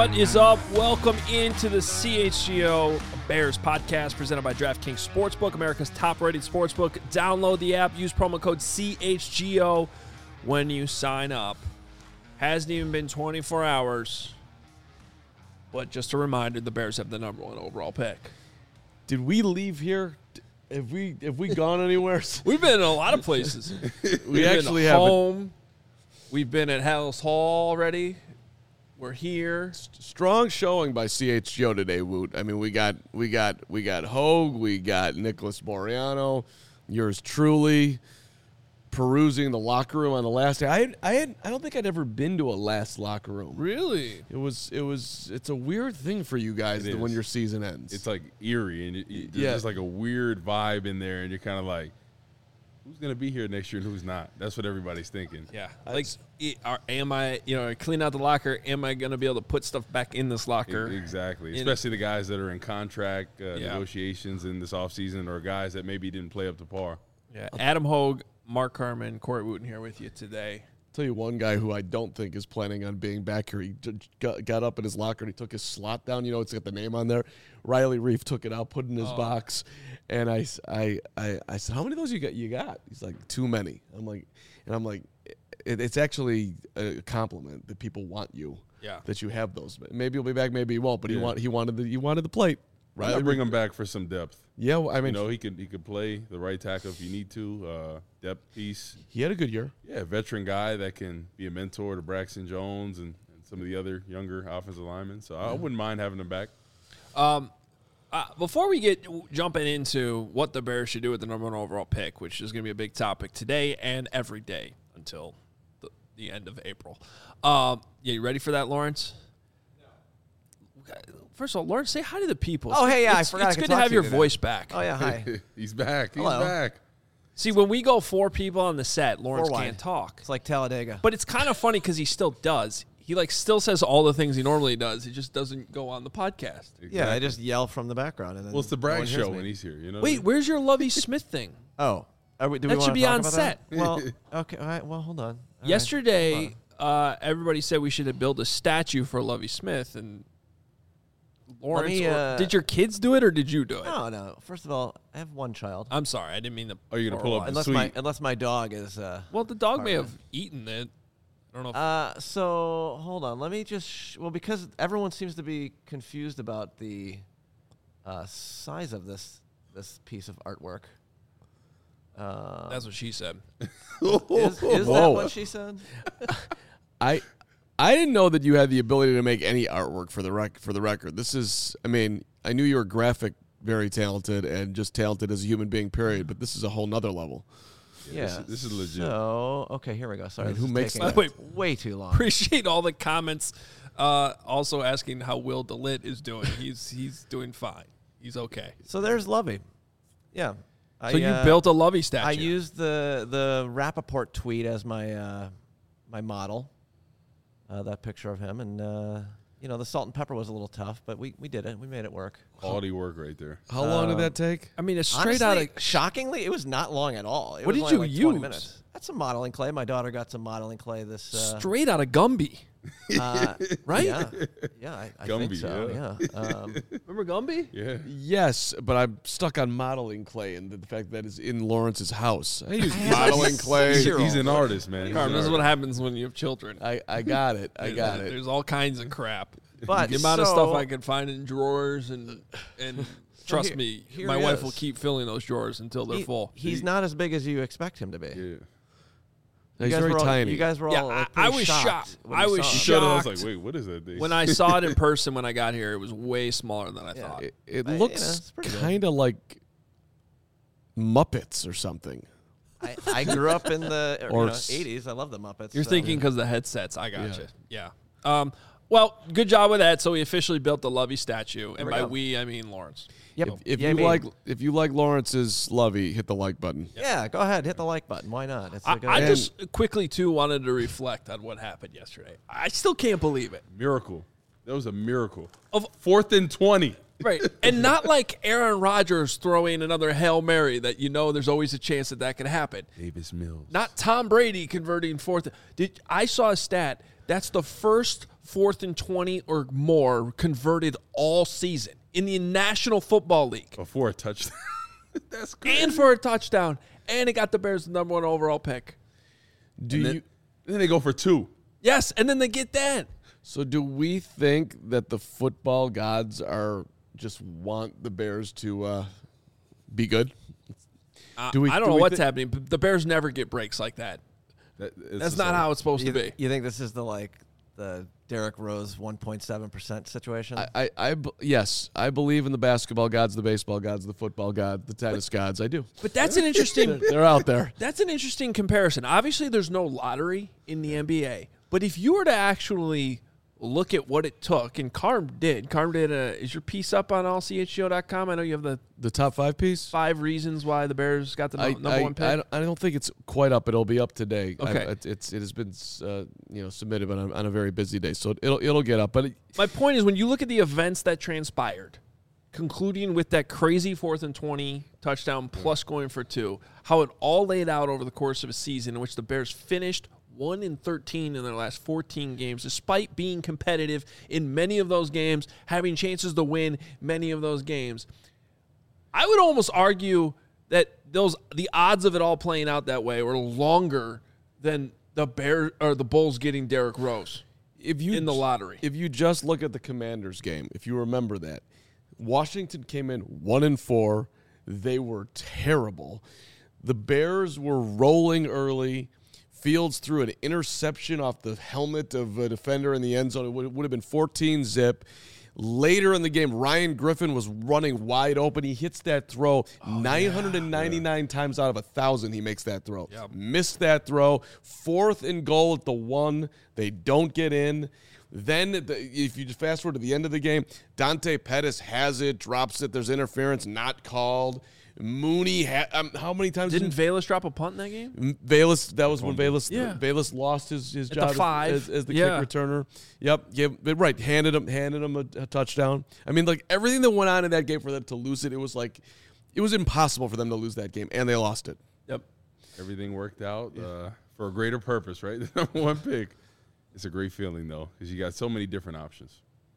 What is up? Welcome into the CHGO Bears podcast presented by DraftKings Sportsbook, America's top-rated sportsbook. Download the app. Use promo code CHGO when you sign up. Hasn't even been 24 hours, but just a reminder, the Bears have the number one overall pick. Did we leave here? Have we gone anywhere? We've been in a lot of places. We actually been have home. We've been at Hallis Hall already. We're here. Strong showing by CHGO today, Woot. I mean, we got Hogue, we got Nicholas Moriano, yours truly, perusing the locker room on the last day. I don't think I'd ever been to a last locker room. Really? It's a weird thing for you guys when your season ends. It's like eerie, and there's just like a weird vibe in there, and you're kind of like, who's going to be here next year and who's not? That's what everybody's thinking. Yeah. Like, am I, clean out the locker, am I going to be able to put stuff back in this locker? Exactly. Especially the guys that are in contract negotiations in this offseason, or guys that maybe didn't play up to par. Yeah. Adam Hogue, Mark Carman, Corey Wooten here with you today. Tell you one guy who I don't think is planning on being back here. He got up in his locker and he took his slot down. You know, it's got the name on there. Riley Reef took it out, put it in his box, and I said, "How many of those you got?" He's like, "Too many." I'm like, it's actually a compliment that people want you. Yeah. That you have those. Maybe he'll be back, maybe he won't. But he wanted the plate. Right. Bring him back for some depth. Yeah, well, I mean, he could play the right tackle if you need to. Depth piece. He had a good year. Yeah, veteran guy that can be a mentor to Braxton Jones and some of the other younger offensive linemen. So I wouldn't mind having him back. Before we get jumping into what the Bears should do with the number one overall pick, which is going to be a big topic today and every day until the end of April. You ready for that, Lawrence? No. First of all, Lawrence, say hi to the people. Oh, hey, yeah, I forgot. It's good to have your voice back. Oh, yeah, hi. He's back. He's Hello. back. See, when we go four people on the set, Lawrence Four wide. can't talk. It's like Talladega. But it's kind of funny because he still does. He still says all the things he normally does. He just doesn't go on the podcast. Exactly. Yeah, I just yell from the background. And then Well, it's the no Bragg one hears show me. when he's here. You know. Wait, where's your Lovie Smith thing? Oh. Do we That wanna should be talk on about set. that? Well, okay. All right. Well, hold on. All right. Yesterday, everybody said we should have built a statue for Lovie Smith, and Lawrence, did your kids do it or did you do it? No. First of all, I have one child. I'm sorry, I didn't mean to. Are you gonna pull up Unless my dog is. Well, the dog may have eaten it. I don't know. So hold on. Let me just. Because everyone seems to be confused about the size of this piece of artwork. That's what she said. Is that what she said? I didn't know that you had the ability to make any artwork for the record. This is, I mean, I knew you were very talented and just talented as a human being, period. But this is a whole nother level. Yeah. This is legit. So okay, here we go. Sorry, I mean, this who is makes taking that? way too long. Appreciate all the comments. Also asking how Will DeLitt is doing. He's doing fine. He's okay. So there's Lovey. Yeah. So you built a Lovey statue. I used the Rappaport tweet as my my model. That picture of him, and the salt and pepper was a little tough, but we did it. We made it work. Quality work right there. How long did that take? I mean, it's straight out of. Shockingly, it was not long at all. It What was did only you like 20 use? minutes. That's some modeling clay. My daughter got some modeling clay this. Straight out of Gumby. Right? Yeah. I think Gumby, so. yeah. Remember Gumby? Yeah. Yes, but I'm stuck on modeling clay and the fact that it's in Lawrence's house. I use modeling clay. He's an artist, man. He's Carmen, an this is what artist. happens when you have children. I got it. I got it. There's all kinds of crap. But The amount of so- stuff I can find in drawers and trust me, here my he wife is. will keep filling those drawers until they're full. He's not as big as you expect him to be. Yeah. He's very tiny. You guys were all Yeah, pretty I was shocked. when I you was saw him. Shut up. I was Shocked. like, wait, what is that thing? When I saw it in person when I got here, it was way smaller than I thought. It it's looks pretty good. kind of like Muppets or something. I grew up in the Or 80s. I love the Muppets. You're so- thinking because the headsets. I got you. Yeah. Well, good job with that. So we officially built the Lovey statue, and we by go. we, I mean Lawrence. Yep. If Yeah, you me. if you like Lawrence's Lovey, hit the like button. Yeah, go ahead. Hit the like button. Why not? It's a good I idea. just quickly, too, wanted to reflect on what happened yesterday. I still can't believe it. Miracle. That was a miracle. Of 4th and 20. Right. And not like Aaron Rodgers throwing another Hail Mary that there's always a chance that could happen. Davis Mills. Not Tom Brady converting fourth. I saw a stat. That's the first 4th and 20 or more converted all season in the National Football League. Before a touchdown. That's crazy. And for a touchdown. And it got the Bears the number 1 overall pick. Then they go for 2. Yes, and then they get that. So do we think that the football gods just want the Bears to be good? I don't know what's happening, but the Bears never get breaks like that. That's not how it's supposed to be. You think this is the Derrick Rose 1.7% situation? Yes, I believe in the basketball gods, the baseball gods, the football gods, the tennis gods. I do. But that's an interesting. They're out there. That's an interesting comparison. Obviously, there's no lottery in the NBA, but if you were to actually look at what it took, and Carm did. Is your piece up on allchgo.com? I know you have the top 5 piece. 5 reasons why the Bears got the number 1 pick. I don't think it's quite up. It'll be up today. Okay. It has been submitted, but on a very busy day, so it'll get up. But my point is, when you look at the events that transpired, concluding with that crazy 4th and 20 touchdown plus going for 2, how it all laid out over the course of a season in which the Bears finished 1-13 in their last 14 games, despite being competitive in many of those games, having chances to win many of those games. I would almost argue that the odds of it all playing out that way were longer than the Bulls getting Derrick Rose in the lottery. If you just look at the Commanders game, if you remember that, Washington came in 1-4. They were terrible. The Bears were rolling early. Fields threw an interception off the helmet of a defender in the end zone. It would have been 14-zip. Later in the game, Ryan Griffin was running wide open. He hits that throw 999 times out of 1,000. He makes that throw. Yep. Missed that throw. 4th and goal at the 1. They don't get in. Then, if you just fast forward to the end of the game, Dante Pettis has it, drops it. There's interference, not called. Mooney, how many times didn't Velus drop a punt in that game? Velus, that was when Velus lost his job the 5 as the kick returner. Yep, handed him a touchdown. I mean, everything that went on in that game for them to lose it, it was impossible for them to lose that game, and they lost it. Yep, everything worked out for a greater purpose, right? The number 1 pick. It's a great feeling though, because you got so many different options.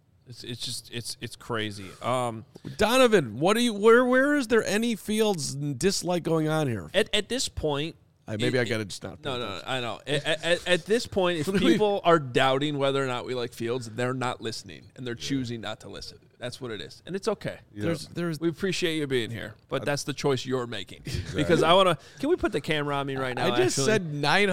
It's crazy. Donovan, where is there any Fields dislike going on here? At this point, maybe I got to just not. No, I know. At this point, if people are doubting whether or not we like Fields, they're not listening, and they're choosing not to listen. That's what it is, and it's okay. Yeah. We appreciate you being here, but that's the choice you're making. Exactly. Because I want to. Can we put the camera on me right now? I just said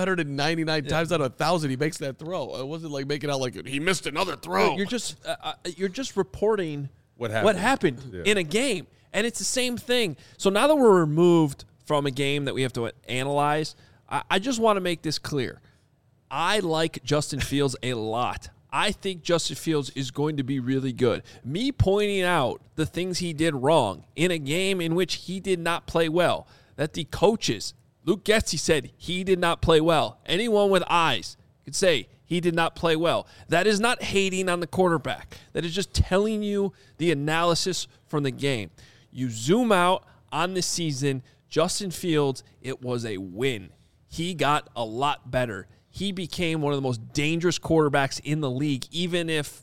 999 times out of 1,000 he makes that throw. It wasn't like making out like he missed another throw. You're just reporting what happened in a game, and it's the same thing. So now that we're removed from a game that we have to analyze, I just want to make this clear. I like Justin Fields a lot. I think Justin Fields is going to be really good. Me pointing out the things he did wrong in a game in which he did not play well, that the coaches, Luke Getsy said he did not play well. Anyone with eyes could say he did not play well. That is not hating on the quarterback. That is just telling you the analysis from the game. You zoom out on the season, Justin Fields, it was a win. He got a lot better. He became one of the most dangerous quarterbacks in the league, even if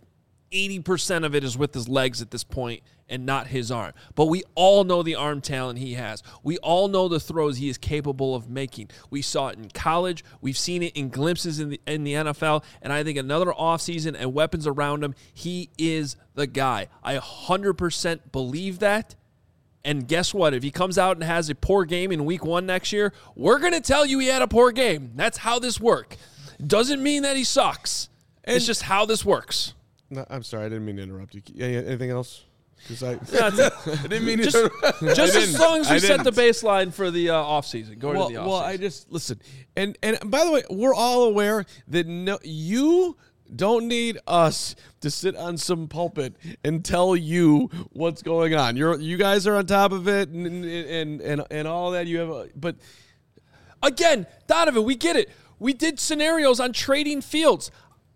80% of it is with his legs at this point and not his arm. But we all know the arm talent he has. We all know the throws he is capable of making. We saw it in college. We've seen it in glimpses in the NFL. And I think another offseason and weapons around him, he is the guy. I 100% believe that. And guess what? If he comes out and has a poor game in week 1 next year, we're going to tell you he had a poor game. That's how this works. Doesn't mean that he sucks. It's just how this works. No, I'm sorry. I didn't mean to interrupt you. Anything else? I didn't mean just as long as we set the baseline for the offseason. Going to the offseason. Well, I just listen. And by the way, we're all aware that you don't need us to sit on some pulpit and tell you what's going on. You guys are on top of it and all that. You have, but again, Donovan, we get it. We did scenarios on trading Fields.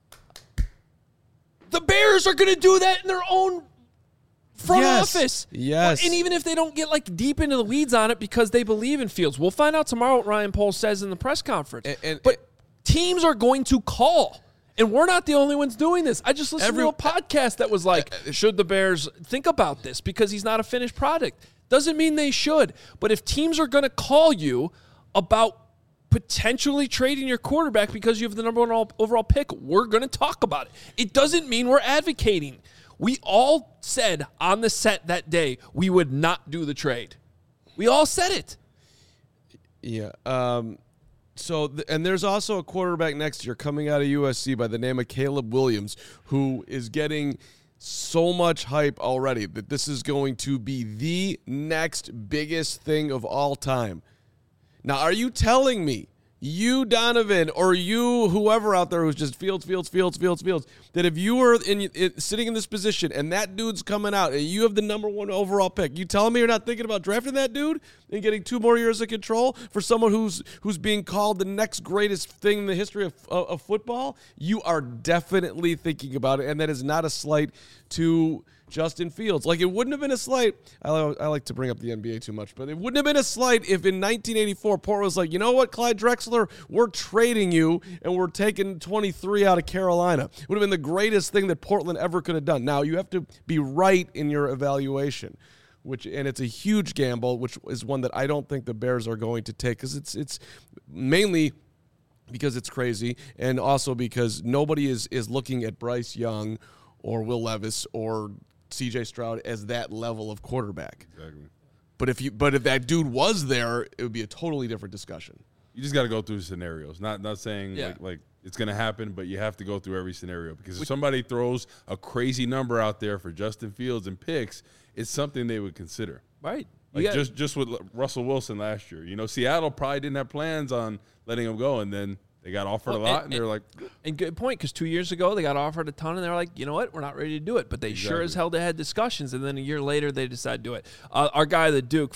The Bears are going to do that in their own front office. Yes. And even if they don't get deep into the weeds on it because they believe in Fields, we'll find out tomorrow what Ryan Poles says in the press conference. But teams are going to call. And we're not the only ones doing this. I just listened to a podcast that was like, should the Bears think about this because he's not a finished product? Doesn't mean they should. But if teams are going to call you about potentially trading your quarterback because you have the number one overall pick, we're going to talk about it. It doesn't mean we're advocating. We all said on the set that day we would not do the trade. We all said it. Yeah. And there's also a quarterback next year coming out of USC by the name of Caleb Williams, who is getting so much hype already that this is going to be the next biggest thing of all time. Now, are you telling me, you, Donovan, or you, whoever out there who's just Fields, that if you were sitting in this position and that dude's coming out and you have the number one overall pick, you telling me you're not thinking about drafting that dude and getting 2 more years of control for someone who's being called the next greatest thing in the history of football? You are definitely thinking about it, and that is not a slight to Justin Fields. Like, it wouldn't have been a slight. I like to bring up the NBA too much, but it wouldn't have been a slight if in 1984 Portland was like, you know what, Clyde Drexler, we're trading you and we're taking 23 out of Carolina. It would have been the greatest thing that Portland ever could have done. Now, you have to be right in your evaluation, and it's a huge gamble, which is one that I don't think the Bears are going to take, because it's mainly because it's crazy, and also because nobody is looking at Bryce Young or Will Levis or C.J. Stroud as that level of quarterback. Exactly. But if that dude was there, it would be a totally different discussion. You just got to go through scenarios. Not saying Yeah. like it's going to happen, but you have to go through every scenario, because if somebody throws a crazy number out there for Justin Fields and picks, it's something they would consider. Right. Like just with Russell Wilson last year. You know, Seattle probably didn't have plans on letting him go, and then they got offered a lot, and they were like... And good point, because 2 years ago, they got offered a ton, and they were like, you know what, we're not ready to do it. But they sure as hell had discussions, and then a year later, they decided to do it. Our guy, the Duke,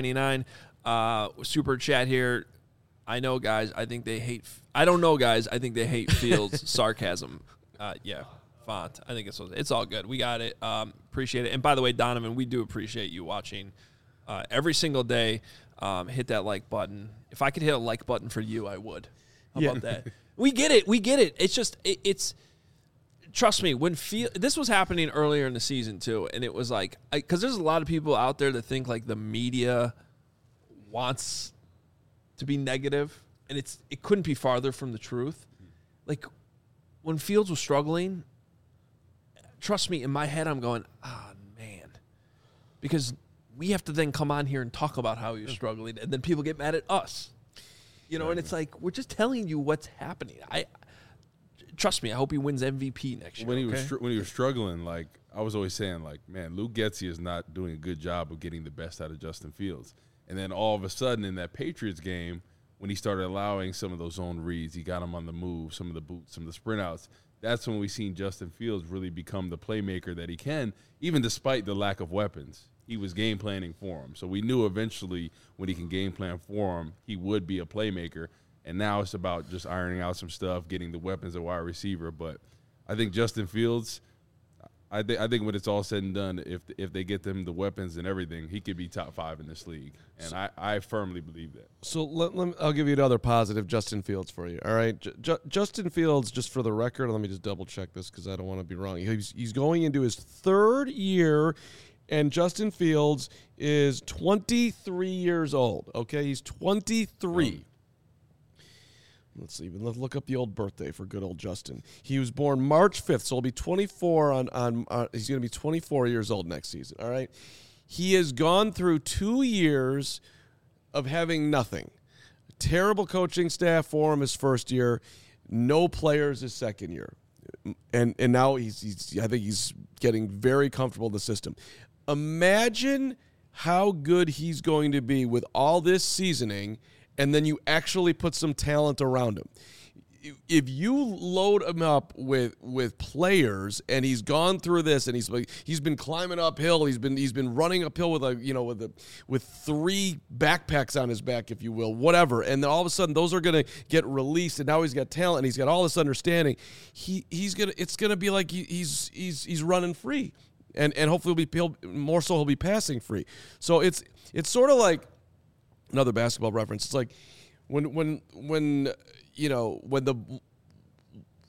$4.99, super chat here. I know, guys, I think they hate... I don't know, guys, I think they hate Fields' sarcasm. Yeah, font. I think it's all good. We got it. Appreciate it. And by the way, Donovan, we do appreciate you watching every single day. Hit that like button. If I could hit a like button for you, I would. How about that? We get it. It's just it's. Trust me. This was happening earlier in the season too, and it was like, because there's a lot of people out there that think like the media wants to be negative, and it couldn't be farther from the truth. Like when Fields was struggling, trust me, in my head I'm going, man, because we have to then come on here and talk about how he was struggling, and then people get mad at us. You know, and it's like, we're just telling you what's happening. Trust me, I hope he wins MVP next year. When he was struggling, like I was always saying, like, man, Luke Getsy is not doing a good job of getting the best out of Justin Fields. And then all of a sudden in that Patriots game, when he started allowing some of those zone reads, he got him on the move, some of the boots, some of the sprint outs. That's when we seen Justin Fields really become the playmaker that he can, even despite the lack of weapons. He was game planning for him. So we knew eventually when he can game plan for him, he would be a playmaker. And now it's about just ironing out some stuff, getting the weapons at wide receiver. But I think Justin Fields, I think when it's all said and done, if they get them the weapons and everything, he could be top 5 in this league. And I firmly believe that. So I'll give you another positive Justin Fields for you. All right, Justin Fields, just for the record, let me just double check this because I don't want to be wrong. He's going into his 3rd year. And Justin Fields is 23 years old, okay? He's 23. Let's see. Let's look up the old birthday for good old Justin. He was born March 5th, so he'll be 24 he's going to be 24 years old next season, all right? He has gone through 2 years of having nothing. Terrible coaching staff for him his first year, no players his second year. And now I think he's getting very comfortable in the system. Imagine how good he's going to be with all this seasoning, and then you actually put some talent around him. If you load him up with players, and he's gone through this, and he's been climbing uphill, he's been running uphill with 3 backpacks on his back, if you will, whatever, and then all of a sudden those are going to get released, and now he's got talent, and he's got all this understanding. It's gonna be like he's running free. And hopefully he'll be passing free. So it's sort of like another basketball reference. It's like when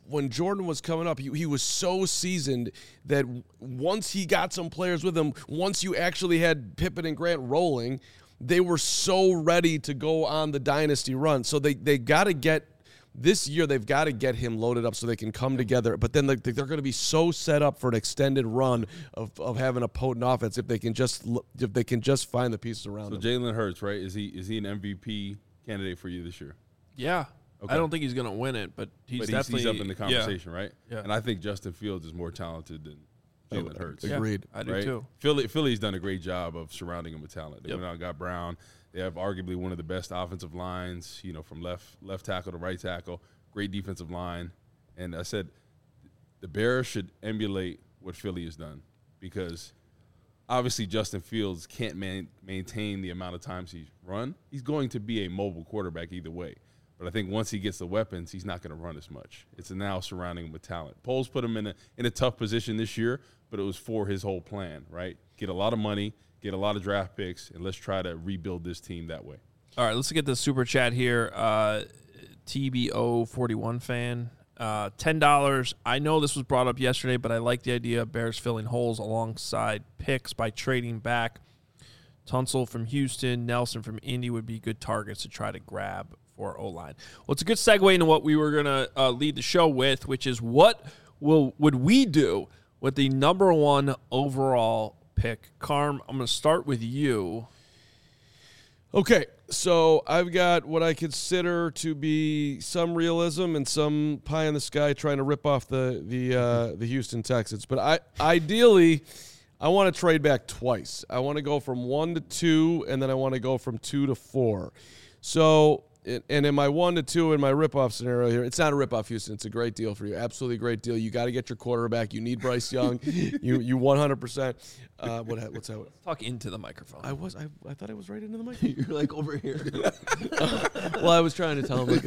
when Jordan was coming up, he was so seasoned that once he got some players with him, once you actually had Pippen and Grant rolling, they were so ready to go on the dynasty run. So they got to get this year. They've got to get him loaded up so they can come together. But then they're going to be so set up for an extended run of having a potent offense if they can just find the pieces around them. Jalen Hurts, right? Is he an MVP candidate for you this year? Yeah. Okay. I don't think he's going to win it, but he's definitely up in the conversation, right? Yeah. And I think Justin Fields is more talented than Jalen Hurts. Agreed. I do right? too. Philly's done a great job of surrounding him with talent. They Yep. went out and got Brown. They have arguably one of the best offensive lines, from left tackle to right tackle. Great defensive line. And I said the Bears should emulate what Philly has done because obviously Justin Fields can't maintain the amount of times he's run. He's going to be a mobile quarterback either way. But I think once he gets the weapons, he's not going to run as much. It's now surrounding him with talent. Poles put him in a tough position this year, but it was for his whole plan, right? Get a lot of money, get a lot of draft picks, and let's try to rebuild this team that way. All right, let's get the super chat here. TBO41 fan, $10. I know this was brought up yesterday, but I like the idea of Bears filling holes alongside picks by trading back. Tunsil from Houston, Nelson from Indy would be good targets to try to grab for O-line. Well, it's a good segue into what we were going to lead the show with, which is what would we do with the number 1 overall pick? Carm, I'm going to start with you. Okay, so I've got what I consider to be some realism and some pie in the sky trying to rip off the Houston Texans. But ideally, I want to trade back twice. I want to go from 1 to 2, and then I want to go from 2 to 4. So, and in my 1 to 2 in my rip-off scenario here, it's not a rip-off, Houston. It's a great deal for you. Absolutely great deal. You got to get your quarterback. You need Bryce Young. you 100%. What's that? Talk into the microphone. I thought I was right into the mic. You're like over here. Well, I was trying to tell him.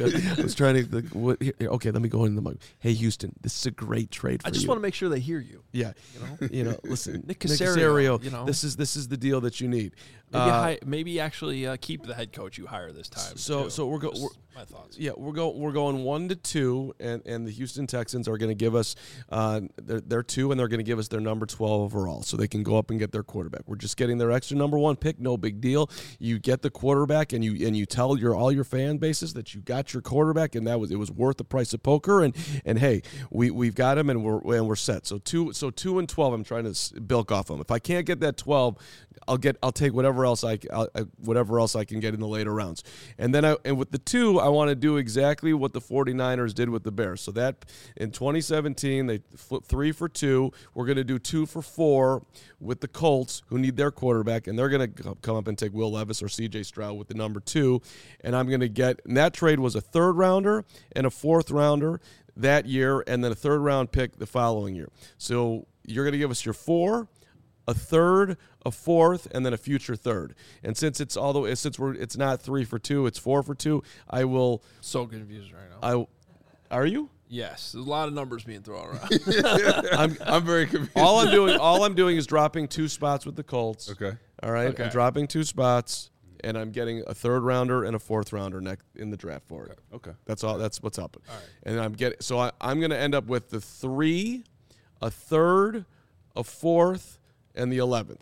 Okay, let me go into the mic. Hey, Houston, this is a great trade for you. I just want to make sure they hear you. Yeah, listen, Nick Caserio, this is the deal that you need. Maybe actually keep the head coach you hire this time. So we're my thoughts. Yeah, we're going 1 to 2, and the Houston Texans are going to give us their 2, and they're going to give us their number 12 overall, so they can go up and get their quarterback. We're just getting their extra number 1 pick, no big deal. You get the quarterback, and you tell all your fan bases that you got your quarterback, and it was worth the price of poker. And hey, we've got him, and we're set. So 2 and 12, I'm trying to bilk off them. If I can't get that 12, I'll take whatever else I can get in the later rounds. And then with the 2, I want to do exactly what the 49ers did with the Bears. So that in 2017, they flipped 3 for 2. We're going to do 2 for 4 with the Colts, who need their quarterback, and they're going to come up and take Will Levis or C.J. Stroud with the number 2. And I'm going to get, and that trade was a 3rd rounder and a 4th rounder that year, and then a 3rd round pick the following year. So you're going to give us your 4, a 3rd, a 4th, and then a future 3rd. And since it's not 3 for 2, it's 4 for 2. I will. So confused right now. Are you? Yes, there's a lot of numbers being thrown around. I'm very confused. All I'm doing is dropping 2 spots with the Colts. Okay. All right. Okay. I'm dropping 2 spots, and I'm getting a 3rd rounder and a 4th rounder next in the draft for it. Okay. That's all. That's what's up. All right. And I'm going to end up with the 3, a 3rd, a 4th, and the 11th.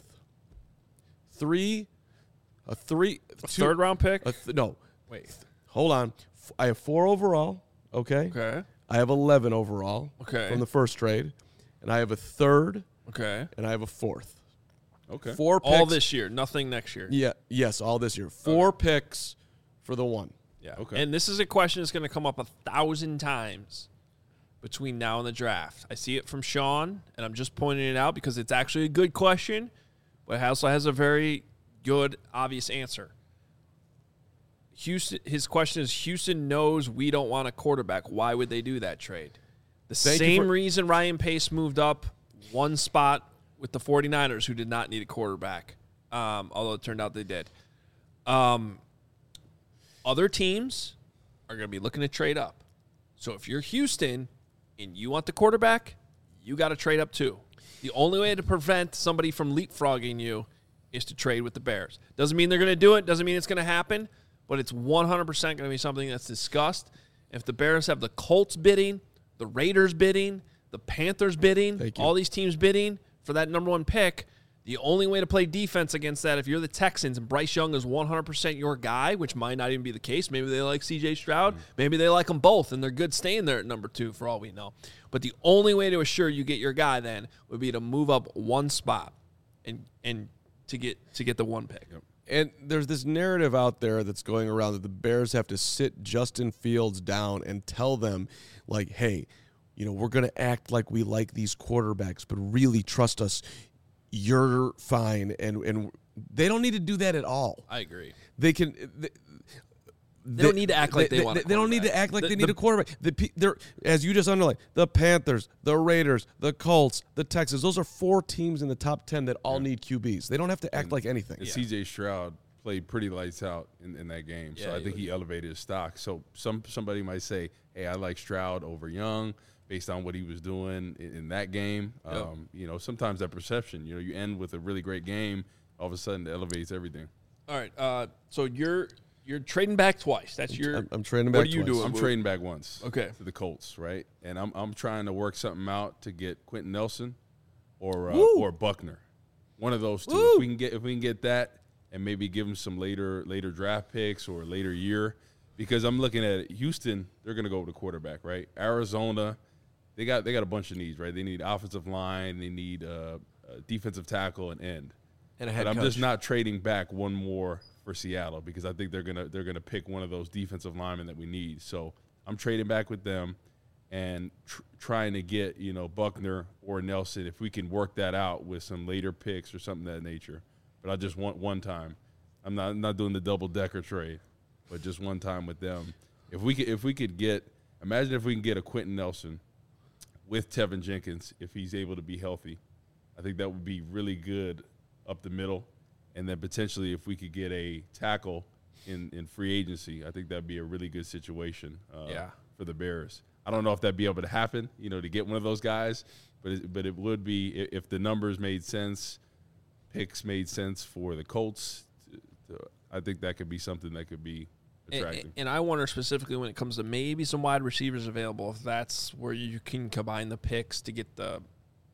3, a 3, A 2, 3rd round pick? no. Wait. Hold on. I have 4 overall. Okay. Okay. I have 11 overall. Okay. From the first trade, and I have a 3rd, Okay. and I have a 4th. Okay. 4 picks. All this year, nothing next year. Yeah. Yes. All this year. 4 picks for the 1. Yeah. Okay. And this is a question that's going to come up 1,000 times between now and the draft. I see it from Sean, and I'm just pointing it out because it's actually a good question, but it also has a very good, obvious answer. His question is, Houston knows we don't want a quarterback. Why would they do that trade? The same reason Ryan Pace moved up 1 spot with the 49ers, who did not need a quarterback, although it turned out they did. Other teams are going to be looking to trade up. So if you're Houston and you want the quarterback, you got to trade up too. The only way to prevent somebody from leapfrogging you is to trade with the Bears. Doesn't mean they're going to do it. Doesn't mean it's going to happen. But it's 100% going to be something that's discussed. If the Bears have the Colts bidding, the Raiders bidding, the Panthers bidding, Thank you. all these teams bidding for that number 1 pick. The only way to play defense against that, if you're the Texans and Bryce Young is 100% your guy, which might not even be the case. Maybe they like C.J. Stroud. Maybe they like them both, and they're good staying there at number 2 for all we know. But the only way to assure you get your guy then would be to move up 1 spot and to get the 1 pick. Yep. And there's this narrative out there that's going around that the Bears have to sit Justin Fields down and tell them, like, hey, we're going to act like we like these quarterbacks, but really trust us. You're fine, and they don't need to do that at all. I agree. They can. They don't need to act like they want a They don't need to quarterback. act like they need a quarterback. They're, as you just underlined, the Panthers, the Raiders, the Colts, the Texans. Those are 4 teams in the top 10 that all need QBs. They don't have to act like anything. And C.J. Stroud played pretty lights out in that game, so I think he elevated his stock. So somebody might say, hey, I like Stroud over Young based on what he was doing in that game. Sometimes that perception, you end with a really great game, all of a sudden it elevates everything. All right, so you're trading back twice. That's your. I'm trading back. What are you twice. doing? I'm trading back once. Okay. To the Colts, right? And I'm trying to work something out to get Quentin Nelson or Buckner. One of those two. Woo. If we can get that and maybe give him some later draft picks or later year, because I'm looking at it, Houston, they're going to go with the quarterback, right? Arizona, they got a bunch of needs, right? They need offensive line, they need a defensive tackle and end. And a head But I'm coach. just not trading back one more for Seattle because I think they're gonna pick one of those defensive linemen that we need. So I'm trading back with them and trying to get Buckner or Nelson if we can work that out with some later picks or something of that nature. But I just want one time. I'm not doing the double decker trade, but just one time with them. If we could get, imagine if we can get a Quentin Nelson with Tevin Jenkins if he's able to be healthy. I think that would be really good up the middle. And then potentially if we could get a tackle in free agency, I think that would be a really good situation for the Bears. I don't know if that'd be able to happen, to get one of those guys, but it would be if the numbers made sense, picks made sense for the Colts. I think that could be something that could be attractive. And I wonder specifically when it comes to maybe some wide receivers available, if that's where you can combine the picks to get the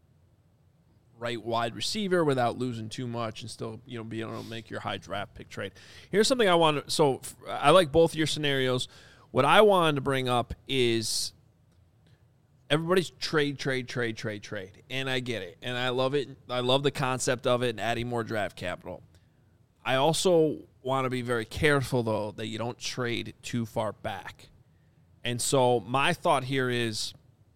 right wide receiver without losing too much and still, be able to make your high draft pick trade. Here's something I want to – so I like both your scenarios. What I wanted to bring up is everybody's trade. And I get it. And I love it. I love the concept of it and adding more draft capital. I also want to be very careful, though, that you don't trade too far back. And so my thought here is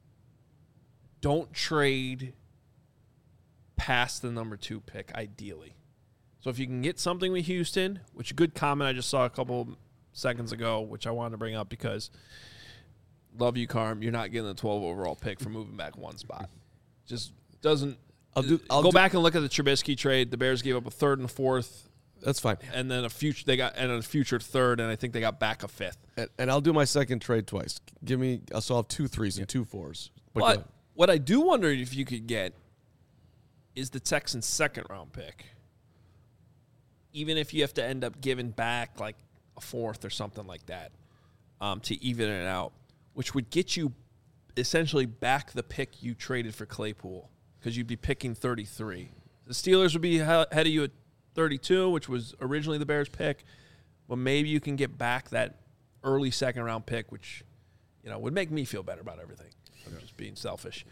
don't trade past the number 2 pick, ideally. So if you can get something with Houston, which a good comment I just saw a couple seconds ago, which I wanted to bring up because love you, Carm, you're not getting the 12 overall pick for moving back 1 spot. Just doesn't. I'll go back and look at the Trubisky trade. The Bears gave up a 3rd and a 4th. That's fine. And then a future 3rd, and I think they got back a 5th. And I'll do my second trade twice. So I'll have 2 3s and 2 4s. But what I do wonder if you could get is the Texans' 2nd round pick. Even if you have to end up giving back like a 4th or something like that to even it out, which would get you essentially back the pick you traded for Claypool because you'd be picking 33. The Steelers would be ahead of you at 32, which was originally the Bears' pick, but maybe you can get back that early 2nd round pick, which would make me feel better about everything. I'm just being selfish.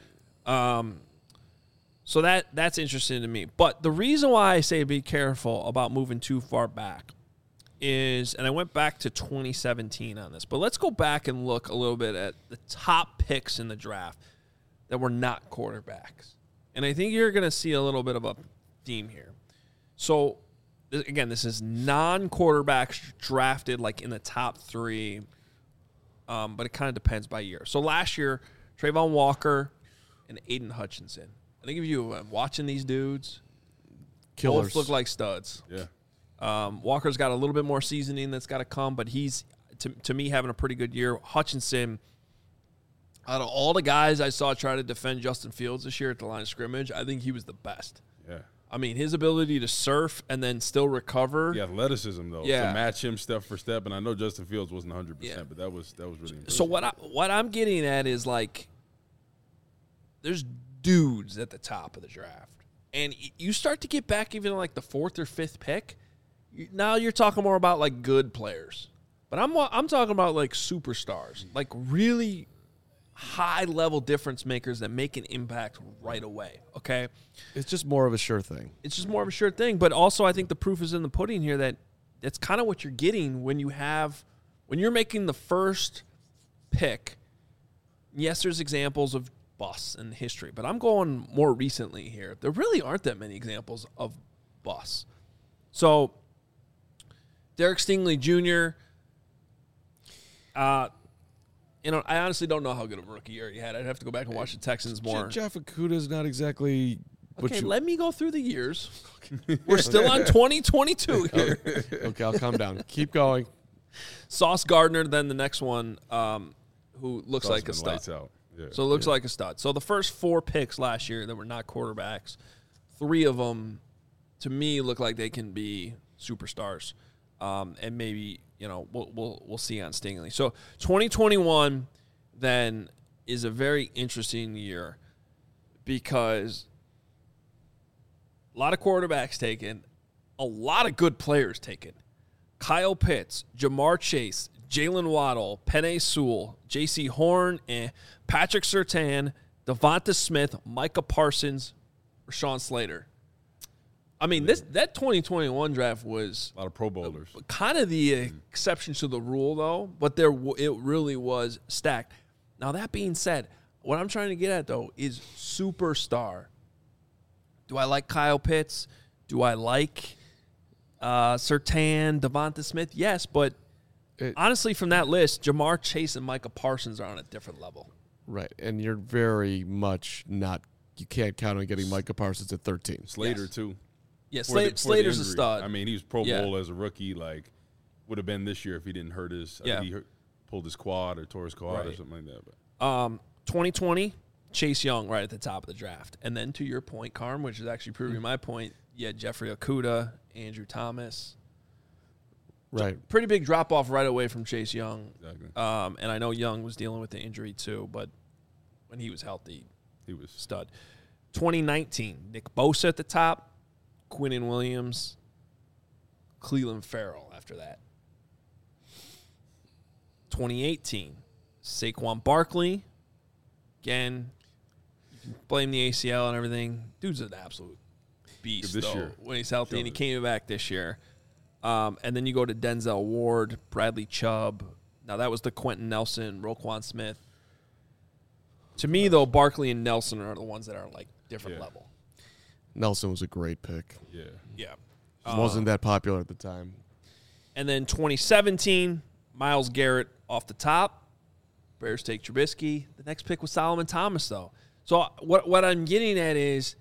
So that's interesting to me. But the reason why I say be careful about moving too far back is, and I went back to 2017 on this, but let's go back and look a little bit at the top picks in the draft that were not quarterbacks. And I think you're going to see a little bit of a theme here. So, again, this is non-quarterbacks drafted like in the top 3, but it kind of depends by year. So last year, Trayvon Walker and Aiden Hutchinson. I think if you watching these dudes, Killers. both look like studs. Yeah. Walker's got a little bit more seasoning that's got to come, but he's, to me, having a pretty good year. Hutchinson, out of all the guys I saw try to defend Justin Fields this year at the line of scrimmage, I think he was the best. Yeah. I mean, his ability to surf and then still recover. The athleticism, though, Yeah. to match him step for step. And I know Justin Fields wasn't 100%, but that was really impressive. So what I'm getting at is, like, there's dudes at the top of the draft. And you start to get back even like the 4th or 5th pick. Now you're talking more about like good players. But I'm talking about like superstars, like really high-level difference makers that make an impact right away, okay? It's just more of a sure thing. It's just more of a sure thing. But also I think the proof is in the pudding here that that's kind of what you're getting when you're making the first pick. Yes, there's examples of busts in history, but I'm going more recently here. There really aren't that many examples of busts. So Derek Stingley Jr., I honestly don't know how good of a rookie year he had. I'd have to go back and watch the Texans more. Jeff Okuda's not exactly. Okay, let me go through the years. We're still on 2022 here. Okay, I'll calm down. Keep going. Sauce Gardner, then the next one, who looks like a stud. Lights out. Yeah. So it looks like a stud. So the first 4 picks last year that were not quarterbacks, 3 of them, to me, look like they can be superstars. And maybe, we'll see on Stingley. So 2021 then is a very interesting year because a lot of quarterbacks taken, a lot of good players taken. Kyle Pitts, Jamar Chase, Jalen Waddle, Penei Sewell, J.C. Horn, Patrick Surtain, Devonta Smith, Micah Parsons, Rashawn Slater. I mean, that 2021 draft was a lot of Pro Bowlers. Kind of the exception to the rule, though, but it really was stacked. Now, that being said, what I'm trying to get at, though, is superstar. Do I like Kyle Pitts? Do I like Surtain, Devonta Smith? Yes, but honestly, from that list, Jamar Chase and Micah Parsons are on a different level. Right, and you're very much not – you can't count on getting Micah Parsons at 13. Slater, Yes. too. Yeah, For the Slater's a injury. stud. I mean, he was Pro Bowl as a rookie. Like, would have been this year if he didn't hurt his. I think he pulled his quad or tore his quad or something like that. But 2020, Chase Young right at the top of the draft, and then to your point, Carm, which is actually proving my point. You had Jeffrey Okudah, Andrew Thomas. Right. Pretty big drop off right away from Chase Young. Exactly. And I know Young was dealing with the injury too, but when he was healthy, he was stud. 2019, Nick Bosa at the top. Quinnen Williams, Cleveland Farrell after that. 2018, Saquon Barkley. Again, you can blame the ACL and everything. Dude's an absolute beast this though, year. when he's healthy, and he came back this year. And then you go to Denzel Ward, Bradley Chubb. Now, that was the Quentin Nelson, Roquan Smith. To me, though, Barkley and Nelson are the ones that are like different level. Nelson was a great pick. Yeah. Yeah. Wasn't that popular at the time. And then 2017, Myles Garrett off the top. Bears take Trubisky. The next pick was Solomon Thomas, though. So what I'm getting at is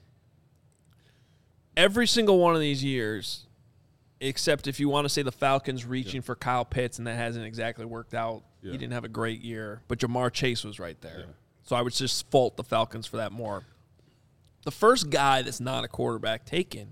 every single one of these years, except if you want to say the Falcons reaching for Kyle Pitts, and that hasn't exactly worked out. Yeah. He didn't have a great year. But Jamar Chase was right there. Yeah. So I would just fault the Falcons for that more. The first guy that's not a quarterback taken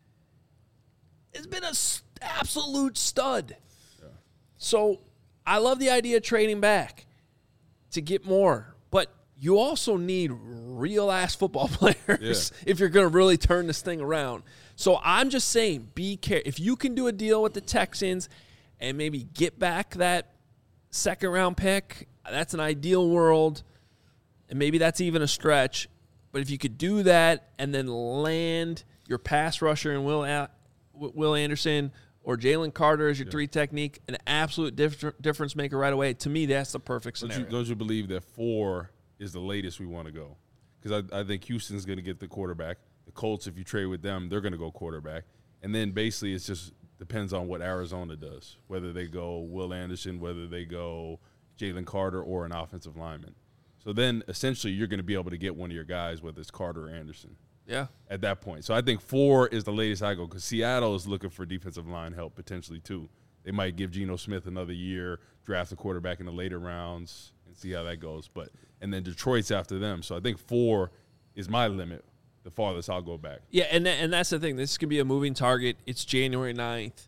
has been an absolute stud. Yeah. So I love the idea of trading back to get more. But you also need real-ass football players if you're going to really turn this thing around. So I'm just saying, be careful. If you can do a deal with the Texans and maybe get back that second-round pick, that's an ideal world. And maybe that's even a stretch. But if you could do that and then land your pass rusher and Will Anderson or Jalen Carter as your 3 technique, an absolute difference maker right away, to me, that's the perfect scenario. Don't you believe that 4 is the latest we want to go? Because I think Houston's going to get the quarterback. The Colts, if you trade with them, they're going to go quarterback. And then basically it just depends on what Arizona does, whether they go Will Anderson, whether they go Jalen Carter or an offensive lineman. So then, essentially, you're going to be able to get one of your guys, whether it's Carter or Anderson. Yeah. At that point. So I think 4 is the latest I go because Seattle is looking for defensive line help potentially too. They might give Geno Smith another year, draft a quarterback in the later rounds, and see how that goes. And then Detroit's after them. So I think 4 is my limit, the farthest I'll go back. Yeah, and that's the thing. This could be a moving target. It's January 9th.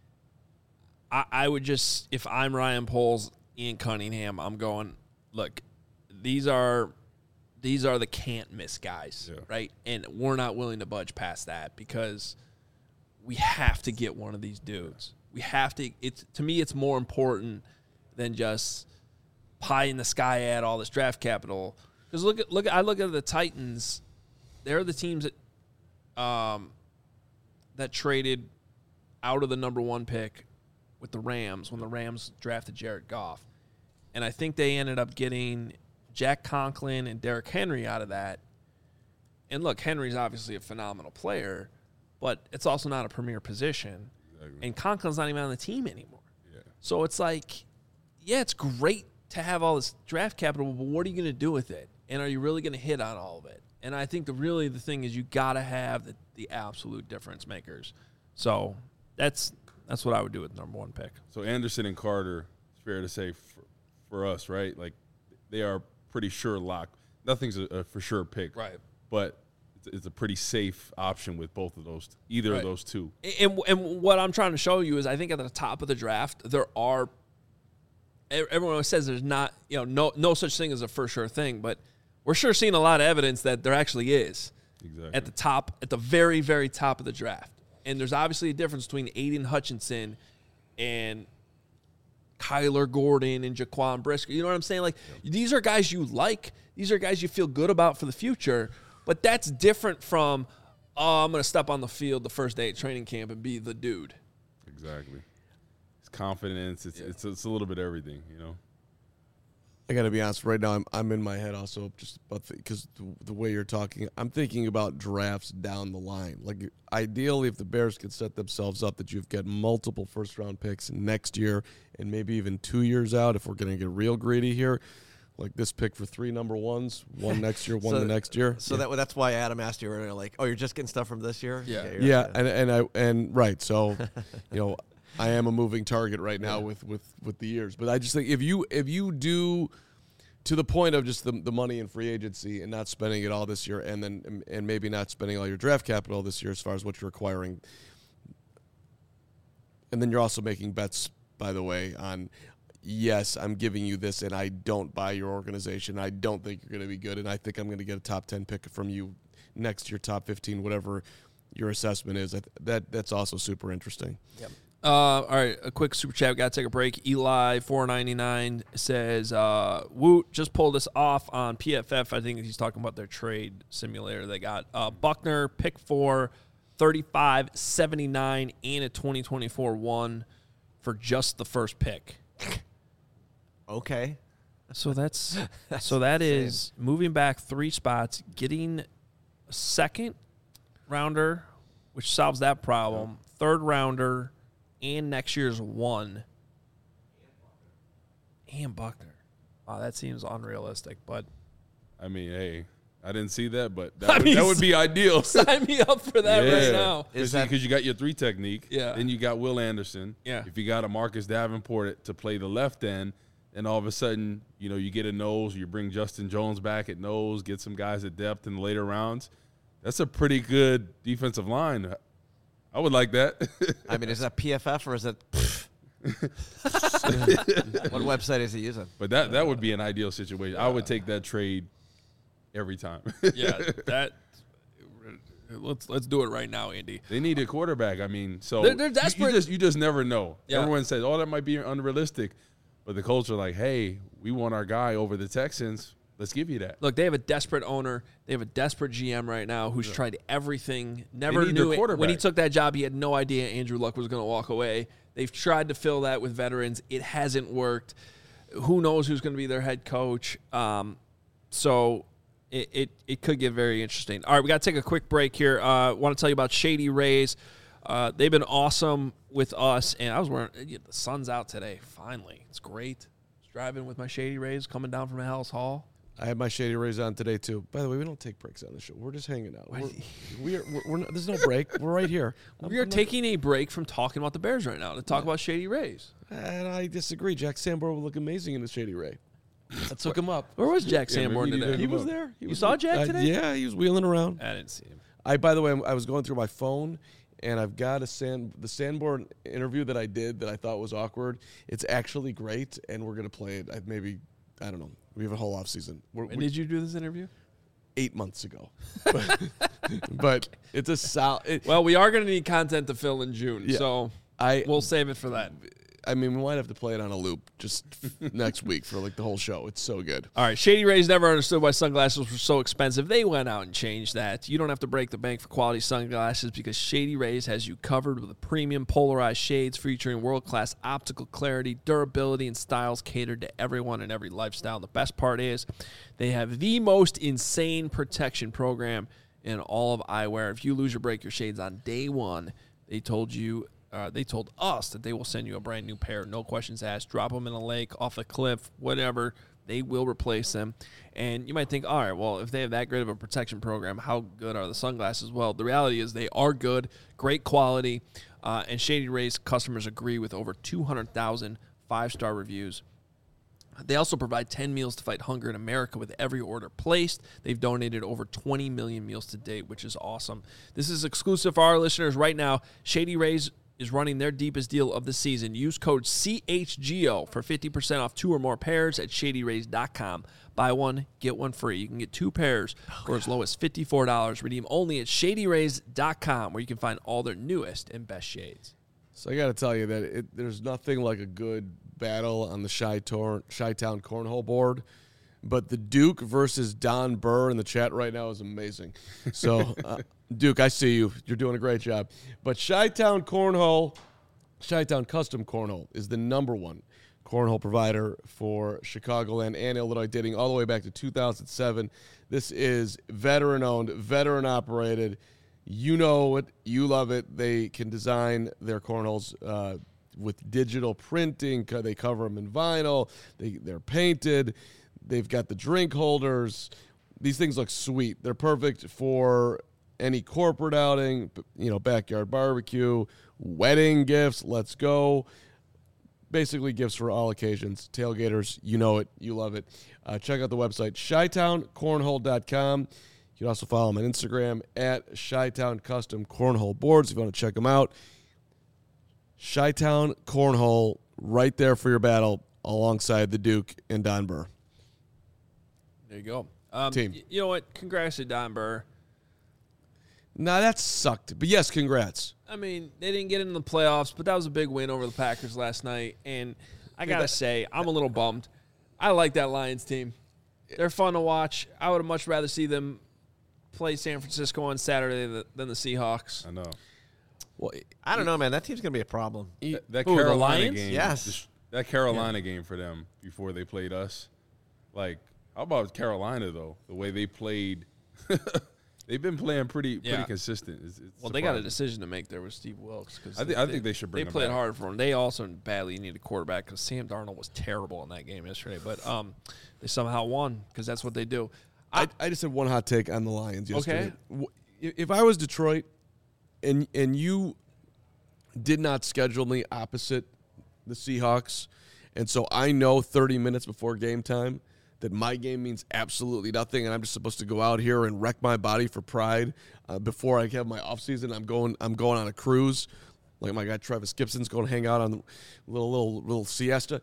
I would just, if I'm Ryan Poles, Ian Cunningham, I'm going, look, these are these are the can't miss guys, Yeah. right? And we're not willing to budge past that because we have to get one of these dudes. We have to. To me, it's more important than just pie in the sky add all this draft capital. Because I look at the Titans. They're the teams that traded out of the number 1 pick with the Rams when the Rams drafted Jared Goff. And I think they ended up getting Jack Conklin and Derrick Henry out of that. And look, Henry's obviously a phenomenal player, but it's also not a premier position. Exactly. And Conklin's not even on the team anymore. Yeah. So it's like, yeah, it's great to have all this draft capital, but what are you going to do with it? And are you really going to hit on all of it? And I think the thing is you got to have the absolute difference makers. So that's what I would do with number 1 pick. So Anderson and Carter, it's fair to say for us, right? Like they are pretty sure lock. Nothing's a for sure pick, right? But it's a pretty safe option with both of those, either of those two. And what I'm trying to show you is I think at the top of the draft there are. Everyone always says there's not no such thing as a for sure thing, but we're sure seeing a lot of evidence that there actually is. Exactly. At the very, very top of the draft. And there's obviously a difference between Aiden Hutchinson and Kyler Gordon and Jaquan Brisker. You know what I'm saying? Like, these are guys you like. These are guys you feel good about for the future. But that's different from, I'm going to step on the field the first day at training camp and be the dude. Exactly. It's confidence. It's a little bit of everything, you know? I got to be honest. Right now, I'm in my head also just about because the way you're talking, I'm thinking about drafts down the line. Like ideally, if the Bears could set themselves up that you've got multiple first-round picks next year and maybe even 2 years out, if we're going to get real greedy here, like this pick for 3 number 1s, one next year, one the next year. So that's why Adam asked you earlier, like, oh, you're just getting stuff from this year? Yeah, and right. So, I am a moving target right now with the years. But I just think if you do to the point of just the money in free agency and not spending it all this year and maybe not spending all your draft capital this year as far as what you're acquiring. And then you're also making bets, by the way, on yes, I'm giving you this and I don't buy your organization. I don't think you're going to be good and I think I'm going to get a top 10 pick from you next year, top 15, whatever your assessment is. That's also super interesting. Yep. All right, a quick super chat. Got to take a break. Eli 499 says, Woot just pulled us off on PFF. I think he's talking about their trade simulator. They got Buckner, pick 4, 35, 79, and a 2024 1 for just the first pick. Okay. So that is moving back 3 spots, getting a second rounder, which solves that problem, third rounder, and next year's 1. And Buckner. Wow, that seems unrealistic, but I mean, hey, I didn't see that, but that would be ideal. Sign me up for that right now. Because you got your 3 technique. Yeah. Then you got Will Anderson. Yeah. If you got a Marcus Davenport to play the left end, and all of a sudden, you get a nose, you bring Justin Jones back at nose, get some guys at depth in the later rounds. That's a pretty good defensive line. I would like that. I mean, is that PFF or is it? What website is he using? But that would be an ideal situation. I would take that trade every time. Let's do it right now, Andy. They need a quarterback. I mean, so they're desperate. You just never know. Yeah. Everyone says, "Oh, that might be unrealistic," but the culture, like, "Hey, we want our guy over the Texans. Let's give you that." Look, they have a desperate owner. They have a desperate GM right now who's tried everything. Never need knew their quarterback. when he took that job. He had no idea Andrew Luck was going to walk away. They've tried to fill that with veterans. It hasn't worked. Who knows who's going to be their head coach? So it could get very interesting. All right, we got to take a quick break here. I want to tell you about Shady Rays. They've been awesome with us, and I was wearing the sun's out today. Finally, it's great. I was driving with my Shady Rays coming down from Hallis Hall. I had my Shady Rays on today, too. By the way, we don't take breaks on the show. We're just hanging out. We're not, there's no break. We're right here. We are taking a break from talking about the Bears right now to talk about Shady Rays. And I disagree. Jack Sanborn would look amazing in the Shady Ray. I took him up. Where was Jack Sanborn maybe today? He was there. You saw Jack today? Yeah, he was wheeling around. I didn't see him. By the way, I was going through my phone, and I've got the Sanborn interview that I did that I thought was awkward. It's actually great, and we're going to play it I don't know. We have a whole off season. When did you do this interview? 8 months ago. But it's a solid. Well, we are going to need content to fill in June, Yeah. so we'll save it for that. I mean, we might have to play it on a loop just next week for like the whole show. It's so good. All right, Shady Rays never understood why sunglasses were so expensive. They went out and changed that. You don't have to break the bank for quality sunglasses because Shady Rays has you covered with premium polarized shades featuring world-class optical clarity, durability, and styles catered to everyone and every lifestyle. The best part is they have the most insane protection program in all of eyewear. If you lose or break your shades on day one, they told us that they will send you a brand new pair. No questions asked. Drop them in a lake, off a cliff, whatever. They will replace them. And you might think, all right, well, if they have that great of a protection program, how good are the sunglasses? Well, the reality is they are good, great quality, and Shady Rays customers agree with over 200,000 5-star reviews. They also provide 10 meals to fight hunger in America with every order placed. They've donated over 20 million meals to date, which is awesome. This is exclusive for our listeners right now. Shady Rays is running their deepest deal of the season. Use code CHGO for 50% off 2 or more pairs at ShadyRays.com. Buy one, get one free. You can get 2 pairs for as low as $54. Redeem only at ShadyRays.com, where you can find all their newest and best shades. So I got to tell you that there's nothing like a good battle on the Chi-Town Cornhole board. But the Duke versus Don Burr in the chat right now is amazing. So, Duke, I see you. You're doing a great job. But Chi-Town Custom Cornhole is the #1 cornhole provider for Chicagoland and Illinois, dating all the way back to 2007. This is veteran-owned, veteran-operated. You know it. You love it. They can design their cornholes with digital printing. They cover them in vinyl. They're painted. They've got the drink holders. These things look sweet. They're perfect for any corporate outing, backyard barbecue, wedding gifts. Let's go. Basically gifts for all occasions. Tailgaters, you know it. You love it. Check out the website, ChiTownCornhole.com. You can also follow them on Instagram at Chi-Town Custom Cornhole Boards if you want to check them out. Chi-Town Cornhole, right there for your battle alongside the Duke and Don Burr. There you go. Team. You know what? Congrats to Don Burr. Nah, that sucked. But yes, congrats. I mean, they didn't get into the playoffs, but that was a big win over the Packers last night. And I got to say, I'm a little bummed. I like that Lions team. They're fun to watch. I would have much rather see them play San Francisco on Saturday than the Seahawks. I know. Well, I don't know, man. That team's going to be a problem. That Who, the Carolina Lions? game. Yes. That Carolina game for them before they played us. Like, how about Carolina, though? The way they played. They've been playing pretty consistent. It's Well, they got a decision to make there with Steve Wilkes. I think they should bring him They played back. hard for him. They also badly needed a quarterback because Sam Darnold was terrible in that game yesterday. But they somehow won because that's what they do. I just had one hot take on the Lions yesterday. Okay. If I was Detroit and you did not schedule me opposite the Seahawks, and so I know 30 minutes before game time that my game means absolutely nothing, and I'm just supposed to go out here and wreck my body for pride before I have my offseason. I'm going on a cruise, like my guy Travis Gibson's going to hang out on the little siesta.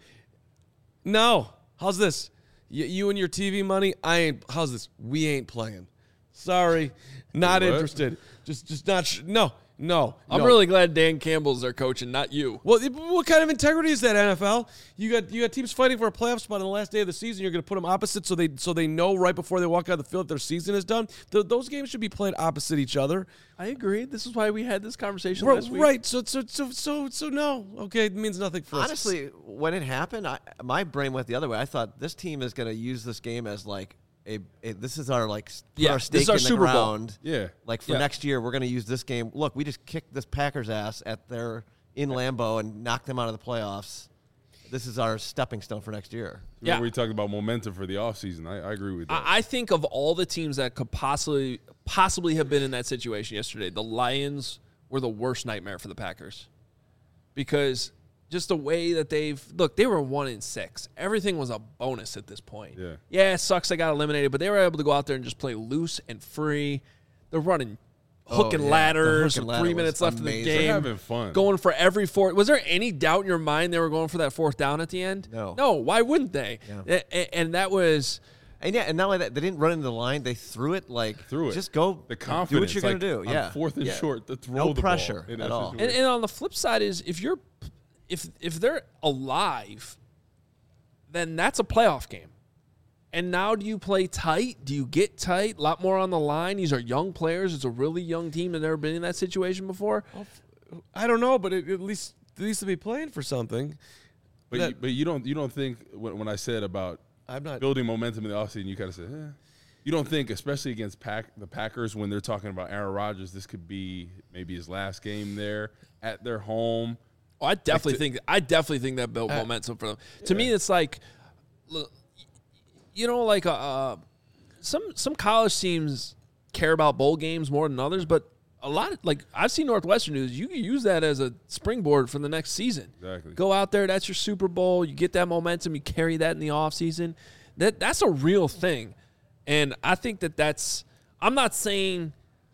No, how's this? You and your TV money? How's this? We ain't playing. Sorry, not What? interested. Just not. No. I'm really glad Dan Campbell's their coach and not you. Well, what kind of integrity is that, NFL? You got teams fighting for a playoff spot on the last day of the season. You're going to put them opposite so they know right before they walk out of the field that their season is done. Those games should be played opposite each other. I agree. This is why we had this conversation last week. Right. So no. Okay, it means nothing for us. Honestly, when it happened, my brain went the other way. I thought this team is going to use this game as like this is our Yeah, our this stake is our in the Super Bowl. ground. Yeah. Like for Yeah. next year, we're going to use this game. Look, we just kicked this Packers ass in Lambeau and knocked them out of the playoffs. This is our stepping stone for next year. Yeah. We talked about momentum for the offseason. I agree with that. I think of all the teams that could possibly have been in that situation yesterday, the Lions were the worst nightmare for the Packers. Because just the way that they were 1-6. Everything was a bonus at this point. Yeah, it sucks they got eliminated, but they were able to go out there and just play loose and free. They're running hook and ladders The hook and with ladder 3 minutes was left in the amazing. game. They're having fun. Going for every fourth. Was there any doubt in your mind they were going for that 4th down at the end? No. No, why wouldn't they? Yeah. And that was... And yeah, and not only that, they didn't run into the line. They threw it. Just go. The confidence. Do what you're going to do. Yeah. On 4th and short, to throw no the pressure ball at all. And on the flip side is if they're alive, then that's a playoff game. And now do you play tight? Do you get tight? A lot more on the line. These are young players. It's a really young team that's never been in that situation before. I don't know, but at least to be playing for something. But you don't think when I said about building momentum in the offseason, you kind of said, you don't think, especially against the Packers, when they're talking about Aaron Rodgers, this could be maybe his last game there at their home. Oh, I definitely think that built momentum for them. To me, it's like, some college teams care about bowl games more than others, but a lot of, I've seen Northwestern do this. You can use that as a springboard for the next season. Exactly. Go out there, that's your Super Bowl. You get that momentum, you carry that in the offseason. That's a real thing. And I think that's – I'm not saying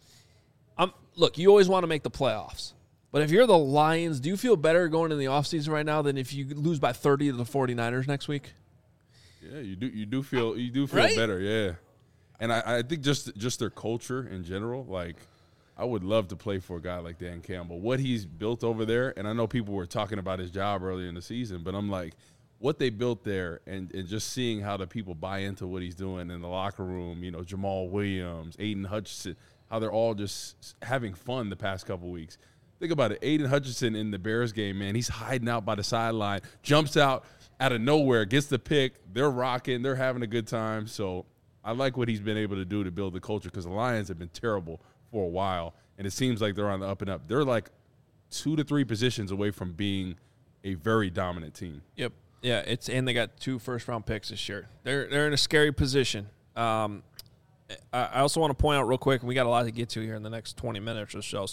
– look, you always want to make the playoffs. But if you're the Lions, do you feel better going in the offseason right now than if you lose by 30 to the 49ers next week? Yeah, you do feel right? better, yeah. And I think just their culture in general, I would love to play for a guy like Dan Campbell. What he's built over there, and I know people were talking about his job earlier in the season, but I'm like, what they built there and just seeing how the people buy into what he's doing in the locker room, Jamal Williams, Aiden Hutchinson, how they're all just having fun the past couple weeks. Think about it. Aiden Hutchinson in the Bears game, man, he's hiding out by the sideline, jumps out of nowhere, gets the pick. They're rocking. They're having a good time. So I like what he's been able to do to build the culture because the Lions have been terrible for a while, and it seems like they're on the up and up. They're 2 to 3 positions away from being a very dominant team. Yep. Yeah, and they got 2 first-round picks this year. They're in a scary position. I also want to point out real quick, and we got a lot to get to here in the next 20 minutes or so.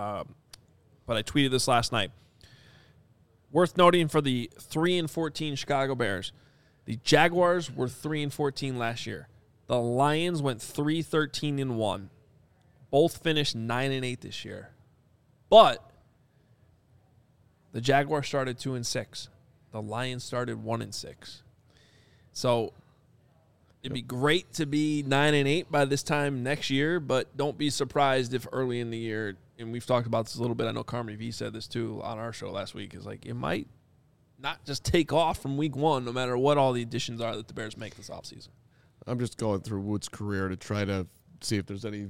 But I tweeted this last night. Worth noting for the 3-14 Chicago Bears, the Jaguars were 3-14 last year. The Lions went 3-13-1. Both finished 9-8 this year. But the Jaguars started 2-6. The Lions started 1-6. So it'd be great to be 9-8 by this time next year, but don't be surprised if early in the year, and we've talked about this a little bit, I know Carmen V said this too on our show last week, is it might not just take off from week 1 no matter what all the additions are that the Bears make this offseason. I'm just going through Wood's career to try to see if there's any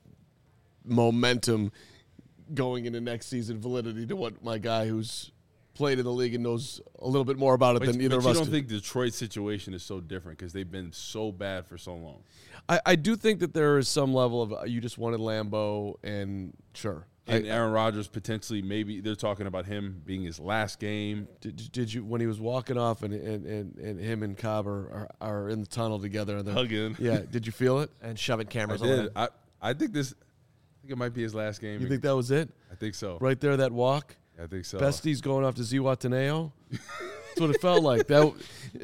momentum going into next season, validity to what my guy who's played in the league and knows a little bit more about it than either of us. You don't think Detroit's situation is so different because they've been so bad for so long? I do think that there is some level of you just wanted Lambeau, and sure. And Aaron Rodgers potentially, maybe they're talking about him being his last game. Did you when he was walking off and him and Cobb are in the tunnel together and hugging? Yeah, did you feel it? And shoving cameras I did. on. I think it might be his last game. You think that was it? I think so. Right there, that walk. I think so. Besti's going off to Zihuatanejo. That's what it felt like. That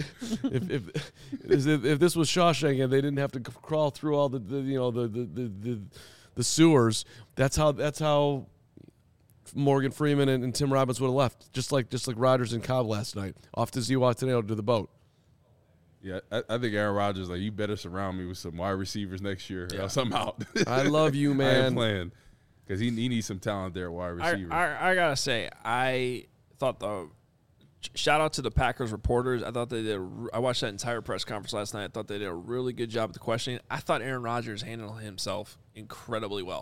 if this was Shawshank and they didn't have to crawl through all the sewers, that's how Morgan Freeman and Tim Robbins would have left, just like Rodgers and Cobb last night, off to Zihuatanejo to the boat. Yeah, I think Aaron Rodgers, you better surround me with some wide receivers next year, or else I'm out. I love you, man. I ain't playing. Because he needs some talent there at wide receiver. I got to say, I thought shout out to the Packers reporters. I thought I watched that entire press conference last night. I thought they did a really good job with the questioning. I thought Aaron Rodgers handled himself incredibly well.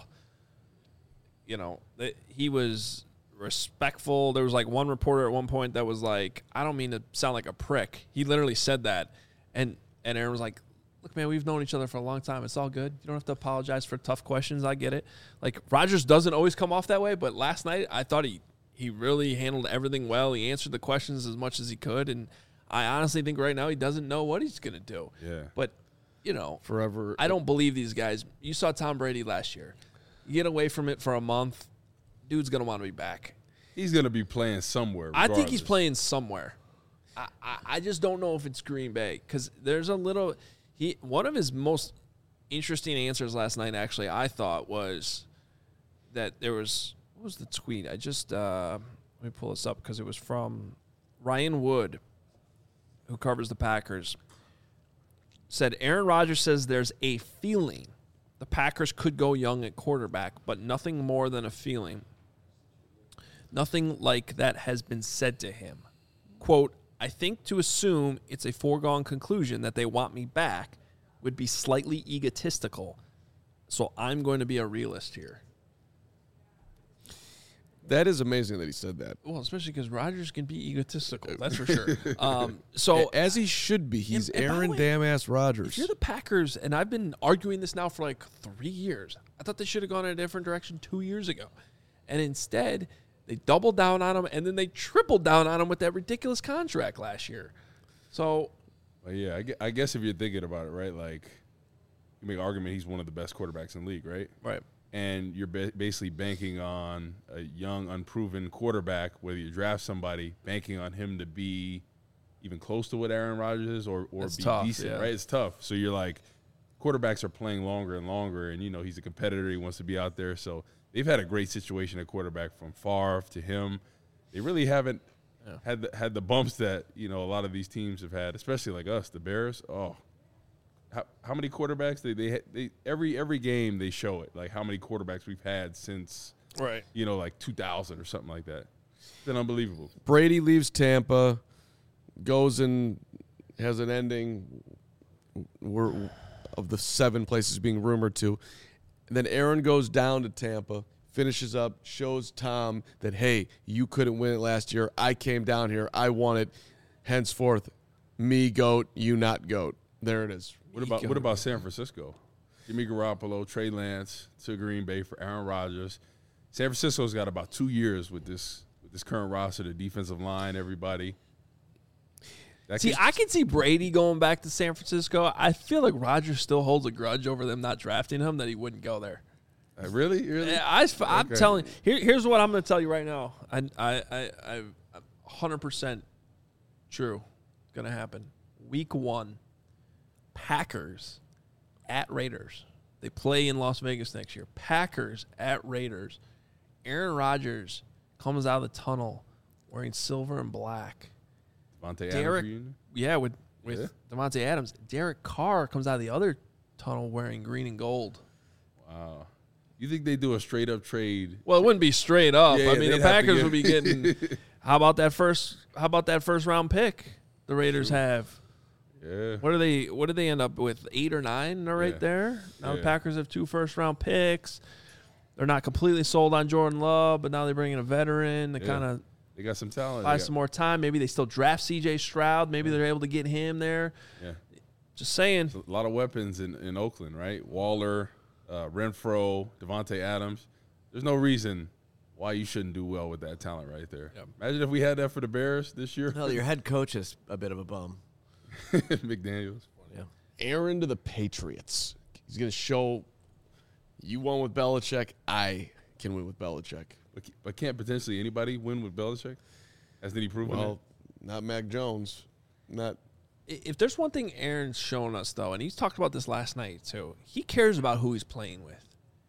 He was respectful. There was one reporter at one point that was like, I don't mean to sound like a prick. He literally said that. And Aaron was like, look, man, we've known each other for a long time. It's all good. You don't have to apologize for tough questions. I get it. Rodgers doesn't always come off that way, but last night I thought he really handled everything well. He answered the questions as much as he could, and I honestly think right now he doesn't know what he's going to do. Yeah. But, forever. I don't believe these guys. You saw Tom Brady last year. You get away from it for a month, dude's going to want to be back. He's going to be playing somewhere regardless. I think he's playing somewhere. I just don't know if it's Green Bay because there's a little – one of his most interesting answers last night, actually, I thought, was that there was – what was the tweet? I just let me pull this up because it was from Ryan Wood, who covers the Packers. said Aaron Rodgers says there's a feeling the Packers could go young at quarterback, but nothing more than a feeling. Nothing like that has been said to him. Quote, I think to assume it's a foregone conclusion that they want me back would be slightly egotistical. So I'm going to be a realist here. That is amazing that he said that. Well, especially because Rodgers can be egotistical. That's for sure. So As he should be. He's and by the Aaron way, damn-ass if Rodgers. you're the Packers, and I've been arguing this now for like 3 years, I thought they should have gone in a different direction 2 years ago. And instead, they doubled down on him, and then they tripled down on him with that ridiculous contract last year. So, Well, yeah, I guess if you're thinking about it, right, like you make an argument he's one of the best quarterbacks in the league, right? right. And you're basically banking on a young, unproven quarterback, whether you draft somebody, banking on him to be even close to what Aaron Rodgers is or That's be tough, decent, yeah. right? It's tough. So you're like, quarterbacks are playing longer and longer, and, he's a competitor. He wants to be out there. So they've had a great situation at quarterback from Favre to him. They really haven't had the bumps that, a lot of these teams have had, especially like us, the Bears. Oh, how many quarterbacks they every game they show it, like how many quarterbacks we've had since Right. like 2000 or something like that. It's been unbelievable. Brady leaves Tampa, goes and has an ending of the 7 places being rumored to. And then Aaron goes down to Tampa, finishes up, shows Tom that, hey, you couldn't win it last year. I came down here. I won it. Henceforth, me GOAT, you not GOAT. There it is. What about San Francisco? Jimmy Garoppolo, Trey Lance to Green Bay for Aaron Rodgers. San Francisco's got about 2 years with this current roster, the defensive line, everybody. I can see Brady going back to San Francisco. I feel like Rodgers still holds a grudge over them not drafting him, that he wouldn't go there. Really? Yeah, I'm telling you. Here's what I'm going to tell you right now. I'm 100% true. It's going to happen. Week 1, Packers at Raiders. They play in Las Vegas next year. Packers at Raiders. Aaron Rodgers comes out of the tunnel wearing silver and black. Devontae Adams reunion? Yeah, with Devontae Adams. Derek Carr comes out of the other tunnel wearing green and gold. Wow. You think they do a straight-up trade? Well, it wouldn't be straight up. Yeah, I mean, the Packers would be getting how about that first round pick the Raiders have? Yeah. What do they end up with? 8 or 9 right there. Now the Packers have 2 first-round picks. They're not completely sold on Jordan Love, but now they bring in a veteran to kind of they got some talent. buy some more time. Maybe they still draft C.J. Stroud. Maybe they're able to get him there. Yeah. Just saying. A lot of weapons in Oakland, right? Waller, Renfro, Devontae Adams. There's no reason why you shouldn't do well with that talent right there. Yep. Imagine if we had that for the Bears this year. Well, your head coach is a bit of a bum. McDaniels. Yeah. Aaron to the Patriots. He's going to show you won with Belichick. I can win with Belichick. But can't potentially anybody win with Belichick? Hasn't he proven Well, not Mac Jones. Not. If there's one thing Aaron's shown us, though, and he's talked about this last night, too, he cares about who he's playing with.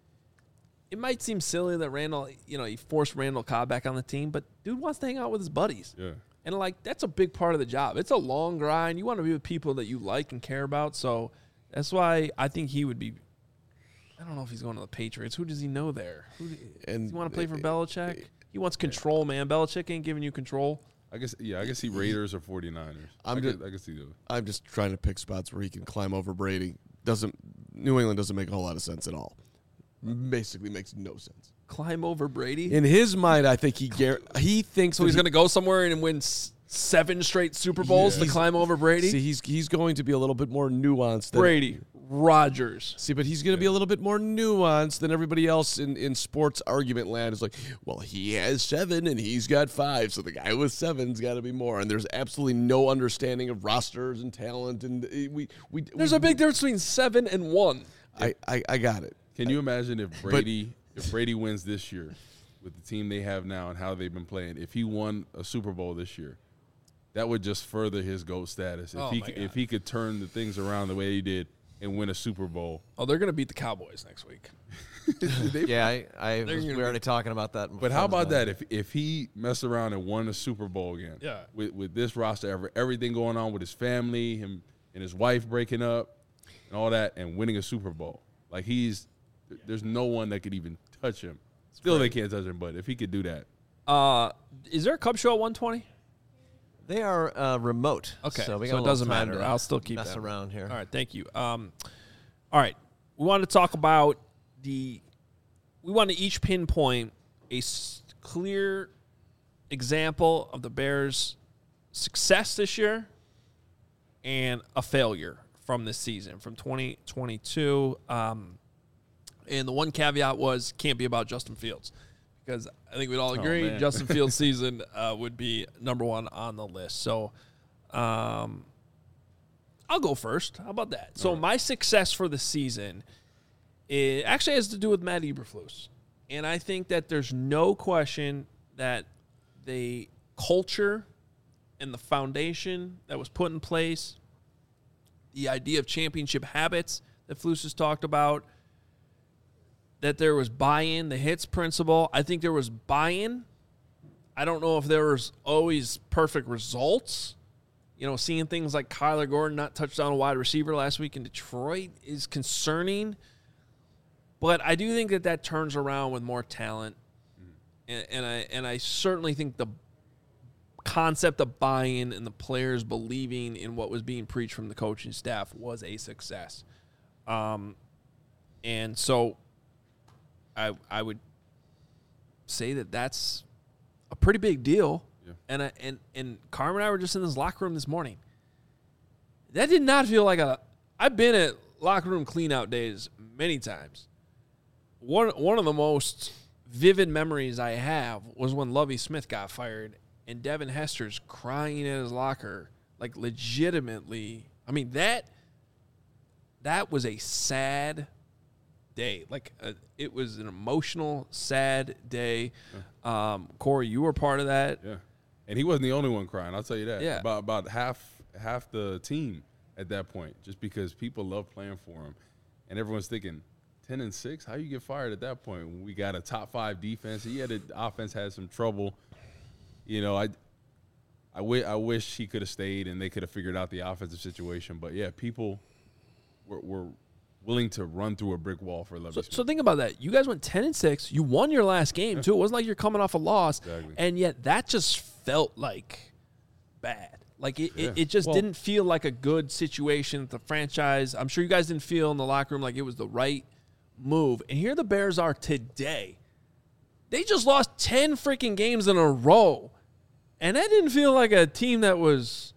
It might seem silly that Randall, he forced Randall Cobb back on the team, but dude wants to hang out with his buddies. Yeah. And, that's a big part of the job. It's a long grind. You want to be with people that you like and care about. So that's why I think he would be – I don't know if he's going to the Patriots. Who does he know there? Does he want to play for Belichick? He wants control, man. Belichick ain't giving you control. I guess see Raiders or 49ers. I can see those. I'm just trying to pick spots where he can climb over Brady. New England doesn't make a whole lot of sense at all. Basically makes no sense. Climb over Brady? In his mind, I think he thinks so he's going to go somewhere and win 7 straight Super Bowls to climb over Brady? See, he's going to be a little bit more nuanced than Brady, Rodgers. See, but he's going to be a little bit more nuanced than everybody else in sports argument land. Is like, well, he has 7 and he's got 5, so the guy with 7's got to be more. And there's absolutely no understanding of rosters and talent. And there's a big difference between 7 and 1. I got it. Can you imagine if Brady wins this year with the team they have now and how they've been playing? If he won a Super Bowl this year, that would just further his GOAT status. If he could turn the things around the way he did and win a Super Bowl. Oh, they're going to beat the Cowboys next week. Yeah, we're already talking about that. But how about that? If he messed around and won a Super Bowl again, with this roster, everything going on with his family, him and his wife breaking up and all that and winning a Super Bowl. Like there's no one that could even touch him. Still, they can't touch him, but if he could do that. Is there a Cub show at 120? They are remote. Okay, so, it doesn't matter. I'll still keep mess that around here. All right, thank you. All right, we want to talk about we want to each pinpoint a clear example of the Bears' success this year and a failure from this season, from 2022. And the one caveat was can't be about Justin Fields, because I think we'd all agree Justin Fields' season would be number one on the list. So I'll go first. How about that? So my success for the season actually has to do with Matt Eberflus. And I think that there's no question that the culture and the foundation that was put in place, the idea of championship habits that Flus has talked about, that there was buy-in, the HITS principle. I think there was buy-in. I don't know if there was always perfect results. You know, seeing things like Kyler Gordon not touch down a wide receiver last week in Detroit is concerning. But I do think that turns around with more talent. And I certainly think the concept of buy-in and the players believing in what was being preached from the coaching staff was a success. And so I would say that that's a pretty big deal. Yeah. And Carmen and I were just in this locker room this morning. That did not feel like I've been at locker room cleanout days many times. One of the most vivid memories I have was when Lovie Smith got fired and Devin Hester's crying in his locker, like legitimately. I mean, that was a sad day. Like it was an emotional, sad day. Yeah. Corey, you were part of that. Yeah, and he wasn't the only one crying. I'll tell you that. Yeah, about half the team at that point, just because people love playing for him, and everyone's thinking 10-6. How you get fired at that point when we got a top 5 defense? The offense had some trouble. You know, I wish he could have stayed and they could have figured out the offensive situation. But yeah, people were willing to run through a brick wall for Lovie Smith. So think about that. You guys went 10-6. You won your last game too. It wasn't like you're coming off a loss, exactly. And yet that just felt like bad. Like it just didn't feel like a good situation with the franchise. I'm sure you guys didn't feel in the locker room like it was the right move. And here the Bears are today. They just lost 10 freaking games in a row. And that didn't feel like a team that was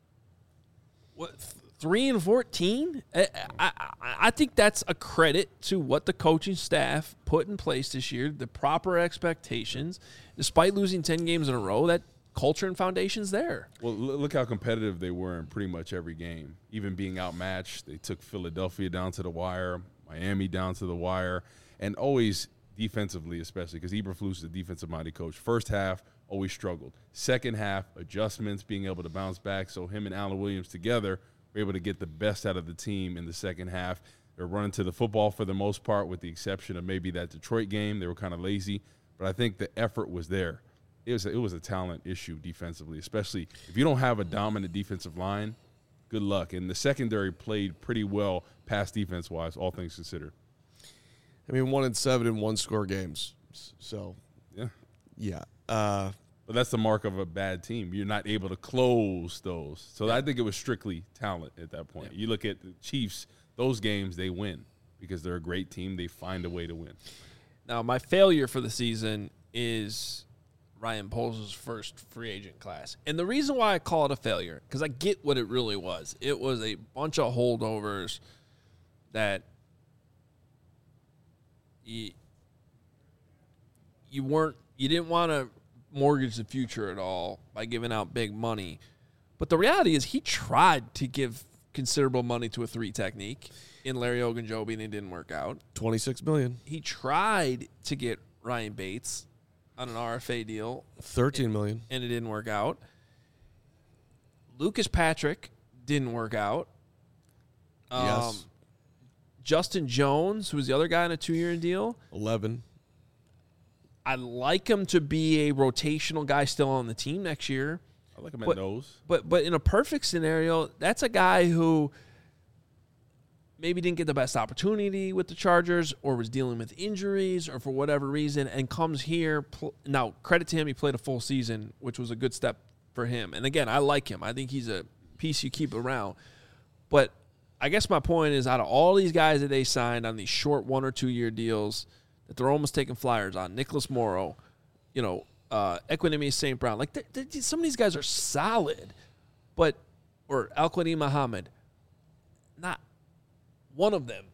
3-14. I think that's a credit to what the coaching staff put in place this year, the proper expectations. Despite losing 10 games in a row, that culture and foundation's there. Well, look how competitive they were in pretty much every game. Even being outmatched, they took Philadelphia down to the wire, Miami down to the wire, and always defensively, especially because Eberflus is a defensive-minded coach. First half, always struggled. Second half, adjustments, being able to bounce back. So him and Allen Williams together were able to get the best out of the team in the second half. They're running to the football for the most part, with the exception of maybe that Detroit game. They were kind of lazy, but I think the effort was there. It was a talent issue defensively, especially if you don't have a dominant defensive line. Good luck. And the secondary played pretty well pass defense-wise, all things considered. I mean, 1-7 in one-score games. So, yeah. But that's the mark of a bad team. You're not able to close those. So I think it was strictly talent at that point. Yeah. You look at the Chiefs, those games they win because they're a great team. They find a way to win. Now, my failure for the season is Ryan Poles' first free agent class. And the reason why I call it a failure, because I get what it really was. It was a bunch of holdovers that you didn't want to mortgage the future at all by giving out big money. But the reality is he tried to give considerable money to a 3 technique in Larry Ogunjobi, and it didn't work out. $26 million. He tried to get Ryan Bates on an RFA deal. $13 million. And it didn't work out. Lucas Patrick didn't work out. Yes. Justin Jones, who was the other guy on a 2-year deal. 11. I'd like him to be a rotational guy still on the team next year. I like him at nose. But in a perfect scenario, that's a guy who maybe didn't get the best opportunity with the Chargers or was dealing with injuries or for whatever reason and comes here. Now, credit to him, he played a full season, which was a good step for him. And, again, I like him. I think he's a piece you keep around. But I guess my point is out of all these guys that they signed on these short 1 or 2 year deals that they're almost taking flyers on, Nicholas Morrow, Equanimous St. Brown, like some of these guys are solid, or Al-Quadin Muhammad, not one of them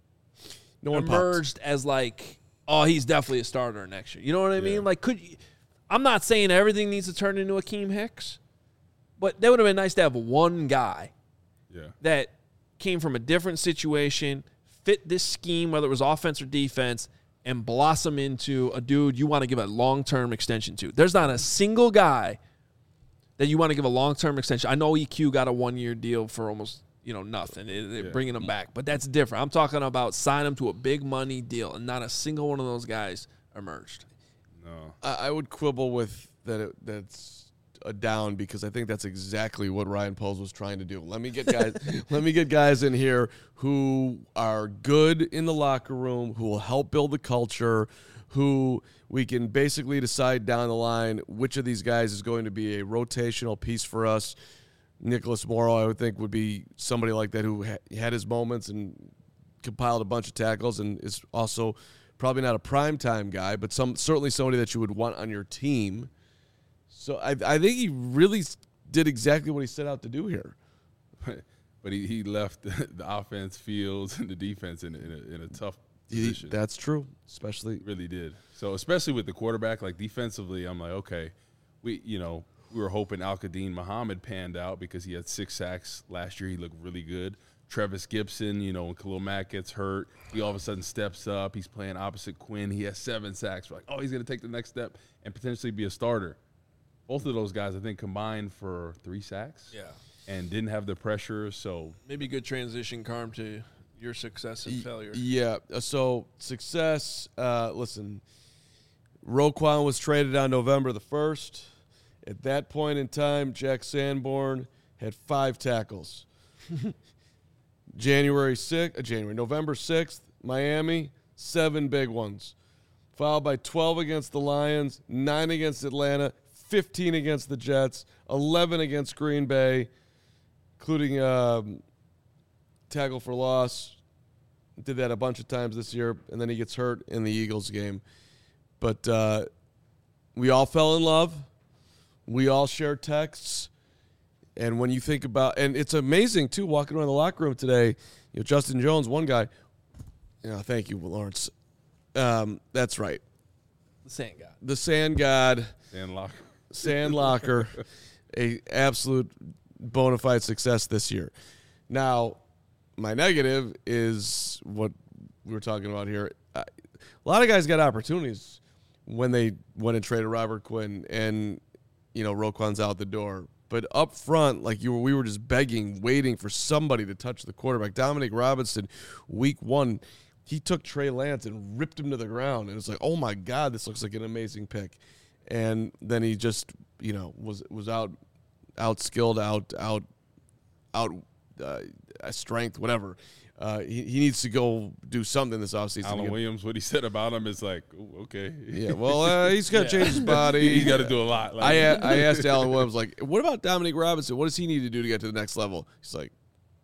emerged as like, oh, he's definitely a starter next year. You know what I mean? Like, I'm not saying everything needs to turn into Akeem Hicks, but that would have been nice to have one guy that came from a different situation, fit this scheme, whether it was offense or defense, and blossom into a dude you want to give a long-term extension to. There's not a single guy that you want to give a long-term extension. I know EQ got a 1 year deal for almost nothing, bringing him back, but that's different. I'm talking about sign him to a big money deal, and not a single one of those guys emerged. No, I would quibble with that. That's a down because I think that's exactly what Ryan Poles was trying to do. Let me get guys. Let me get guys in here who are good in the locker room, who will help build the culture, who we can basically decide down the line which of these guys is going to be a rotational piece for us. Nicholas Morrow, I would think, would be somebody like that who had his moments and compiled a bunch of tackles and is also probably not a primetime guy, but certainly somebody that you would want on your team. So I think he really did exactly what he set out to do here. But he left the offense, Fields, and the defense in a tough position. That's true, especially. Really did. So especially with the quarterback, like defensively, I'm like, okay, we were hoping Al-Quadin Muhammad panned out because he had 6 sacks last year. He looked really good. Trevis Gibson, when Khalil Mack gets hurt, he all of a sudden steps up. He's playing opposite Quinn. He has 7 sacks. We're like, oh, he's going to take the next step and potentially be a starter. Both of those guys, I think, combined for 3 sacks. Yeah. And didn't have the pressure, so. Maybe a good transition, Carm, to your success and failure. Yeah, so success, listen, Roquan was traded on November the 1st. At that point in time, Jack Sanborn had 5 tackles. November 6th, Miami, 7 big ones. Followed by 12 against the Lions, 9 against Atlanta, 15 against the Jets, 11 against Green Bay, including tackle for loss. Did that a bunch of times this year, and then he gets hurt in the Eagles game. But we all fell in love. We all share texts. And when you think about – and it's amazing, too, walking around the locker room today. Justin Jones, one guy – thank you, Lawrence. That's right. The Sand God. The Sand God. Sand Locker. A absolute bona fide success this year. Now, my negative is what we were talking about here. A lot of guys got opportunities when they went and traded Robert Quinn and, Roquan's out the door. But up front, like we were just begging, waiting for somebody to touch the quarterback. Dominic Robinson, week 1, he took Trey Lance and ripped him to the ground. And it's like, oh, my God, this looks like an amazing pick. And then he just, was outskilled, strength, whatever. He needs to go do something this offseason. Alan Williams, what he said about him is like, okay. Yeah, well, he's got to change his body. He's got to do a lot. I asked Alan Williams, like, what about Dominic Robinson? What does he need to do to get to the next level? He's like,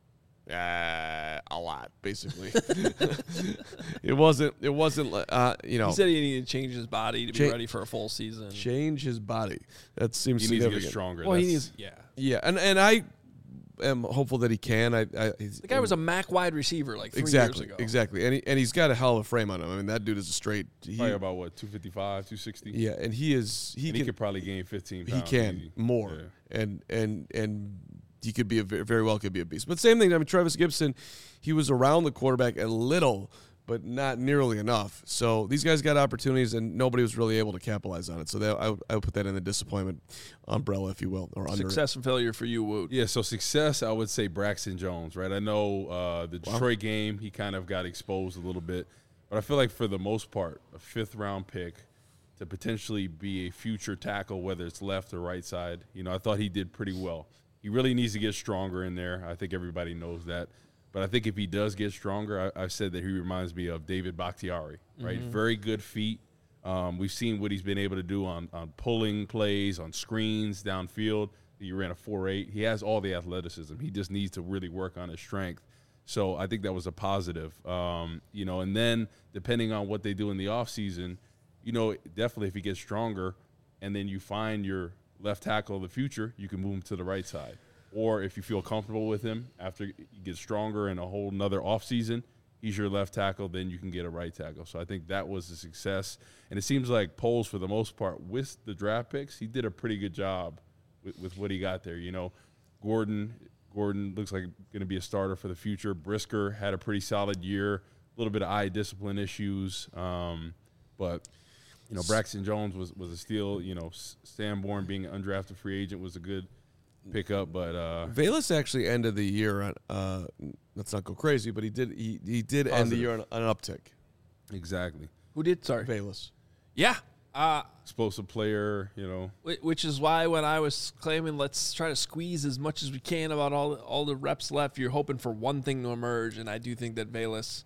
a lot, basically. It wasn't. He said he needed to change his body to be ready for a full season. Change his body. That seems he needs significant. to get stronger. Well, he needs. Yeah, and I am hopeful that he can. The guy was a MAC wide receiver like 3 exactly, years ago. Exactly, and he's got a hell of a frame on him. I mean, that dude is a straight. Probably about what 255, 260. Yeah, and he could probably gain 15 pounds. He can easy. more, yeah. and he could be very well could be a beast. But same thing. I mean, Trevis Gibson, he was around the quarterback a little, but not nearly enough. So these guys got opportunities, and nobody was really able to capitalize on it. So I would put that in the disappointment umbrella, if you will, or under success and failure for you, Woot. Yeah, so success, I would say Braxton Jones, right? I know the Detroit game, he kind of got exposed a little bit, but I feel like for the most part, a 5th-round pick, to potentially be a future tackle, whether it's left or right side. You know, I thought he did pretty well. He really needs to get stronger in there. I think everybody knows that. But I think if he does get stronger, I've said that he reminds me of David Bakhtiari, right? Very good feet. We've seen what he's been able to do on pulling plays, on screens, downfield. He ran a 4.8. He has all the athleticism. He just needs to really work on his strength. So I think that was a positive. You know, and then depending on what they do in the offseason, you know, definitely if he gets stronger and then you find your left tackle of the future, you can move him to the right side. Or if you feel comfortable with him after he gets stronger in a whole nother offseason, he's your left tackle, then you can get a right tackle. So I think that was a success. And it seems like Poles, for the most part, with the draft picks, he did a pretty good job with what he got there. You know, Gordon looks like going to be a starter for the future. Brisker had a pretty solid year, a little bit of eye discipline issues. But, you know, Braxton Jones was a steal. You know, Sanborn being an undrafted free agent was a good pickup, but Velus actually ended the year on let's not go crazy, but he did end the year on an uptick. Exactly. Who did? Sorry. Velus. Yeah. Explosive player, you know. Which is why when I was claiming let's try to squeeze as much as we can about all the reps left, you're hoping for one thing to emerge, and I do think that Velus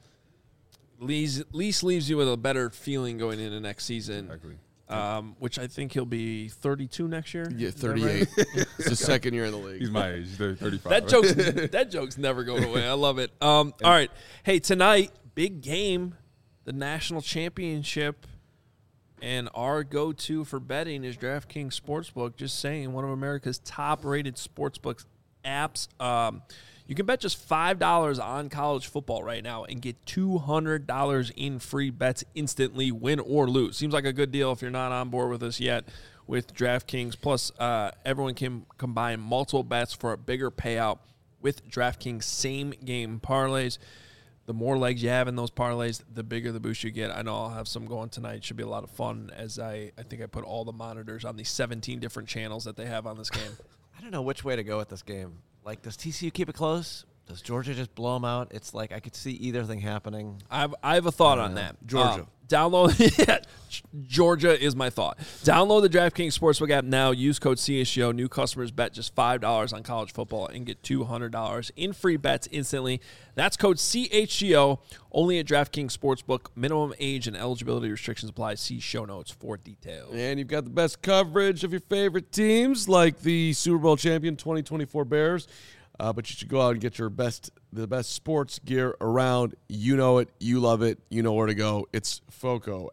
at least leaves you with a better feeling going into next season. Exactly. Which I think he'll be 32 next year. Yeah, 38. It's his second year in the league. He's my age. He's 35. That joke's never going away. I love it. All right. Hey, tonight, big game, the national championship. And our go-to for betting is DraftKings Sportsbook. Just saying, one of America's top-rated sportsbook apps. You can bet just $5 on college football right now and get $200 in free bets instantly, win or lose. Seems like a good deal if you're not on board with us yet with DraftKings. Plus, everyone can combine multiple bets for a bigger payout with DraftKings same-game parlays. The more legs you have in those parlays, the bigger the boost you get. I know I'll have some going tonight. Should be a lot of fun as I think I put all the monitors on the 17 different channels that they have on this game. I don't know which way to go with this game. Like, does TCU keep it close? Does Georgia just blow them out? It's like I could see either thing happening. I have a thought on that. Georgia. Download Georgia is my thought. Download the DraftKings Sportsbook app now. Use code CHGO. New customers bet just $5 on college football and get $200 in free bets instantly. That's code CHGO. Only at DraftKings Sportsbook. Minimum age and eligibility restrictions apply. See show notes for details. And you've got the best coverage of your favorite teams, like the Super Bowl champion 2024 Bears. But you should go out and get the best sports gear around. You know it. You love it. You know where to go. It's FOCO,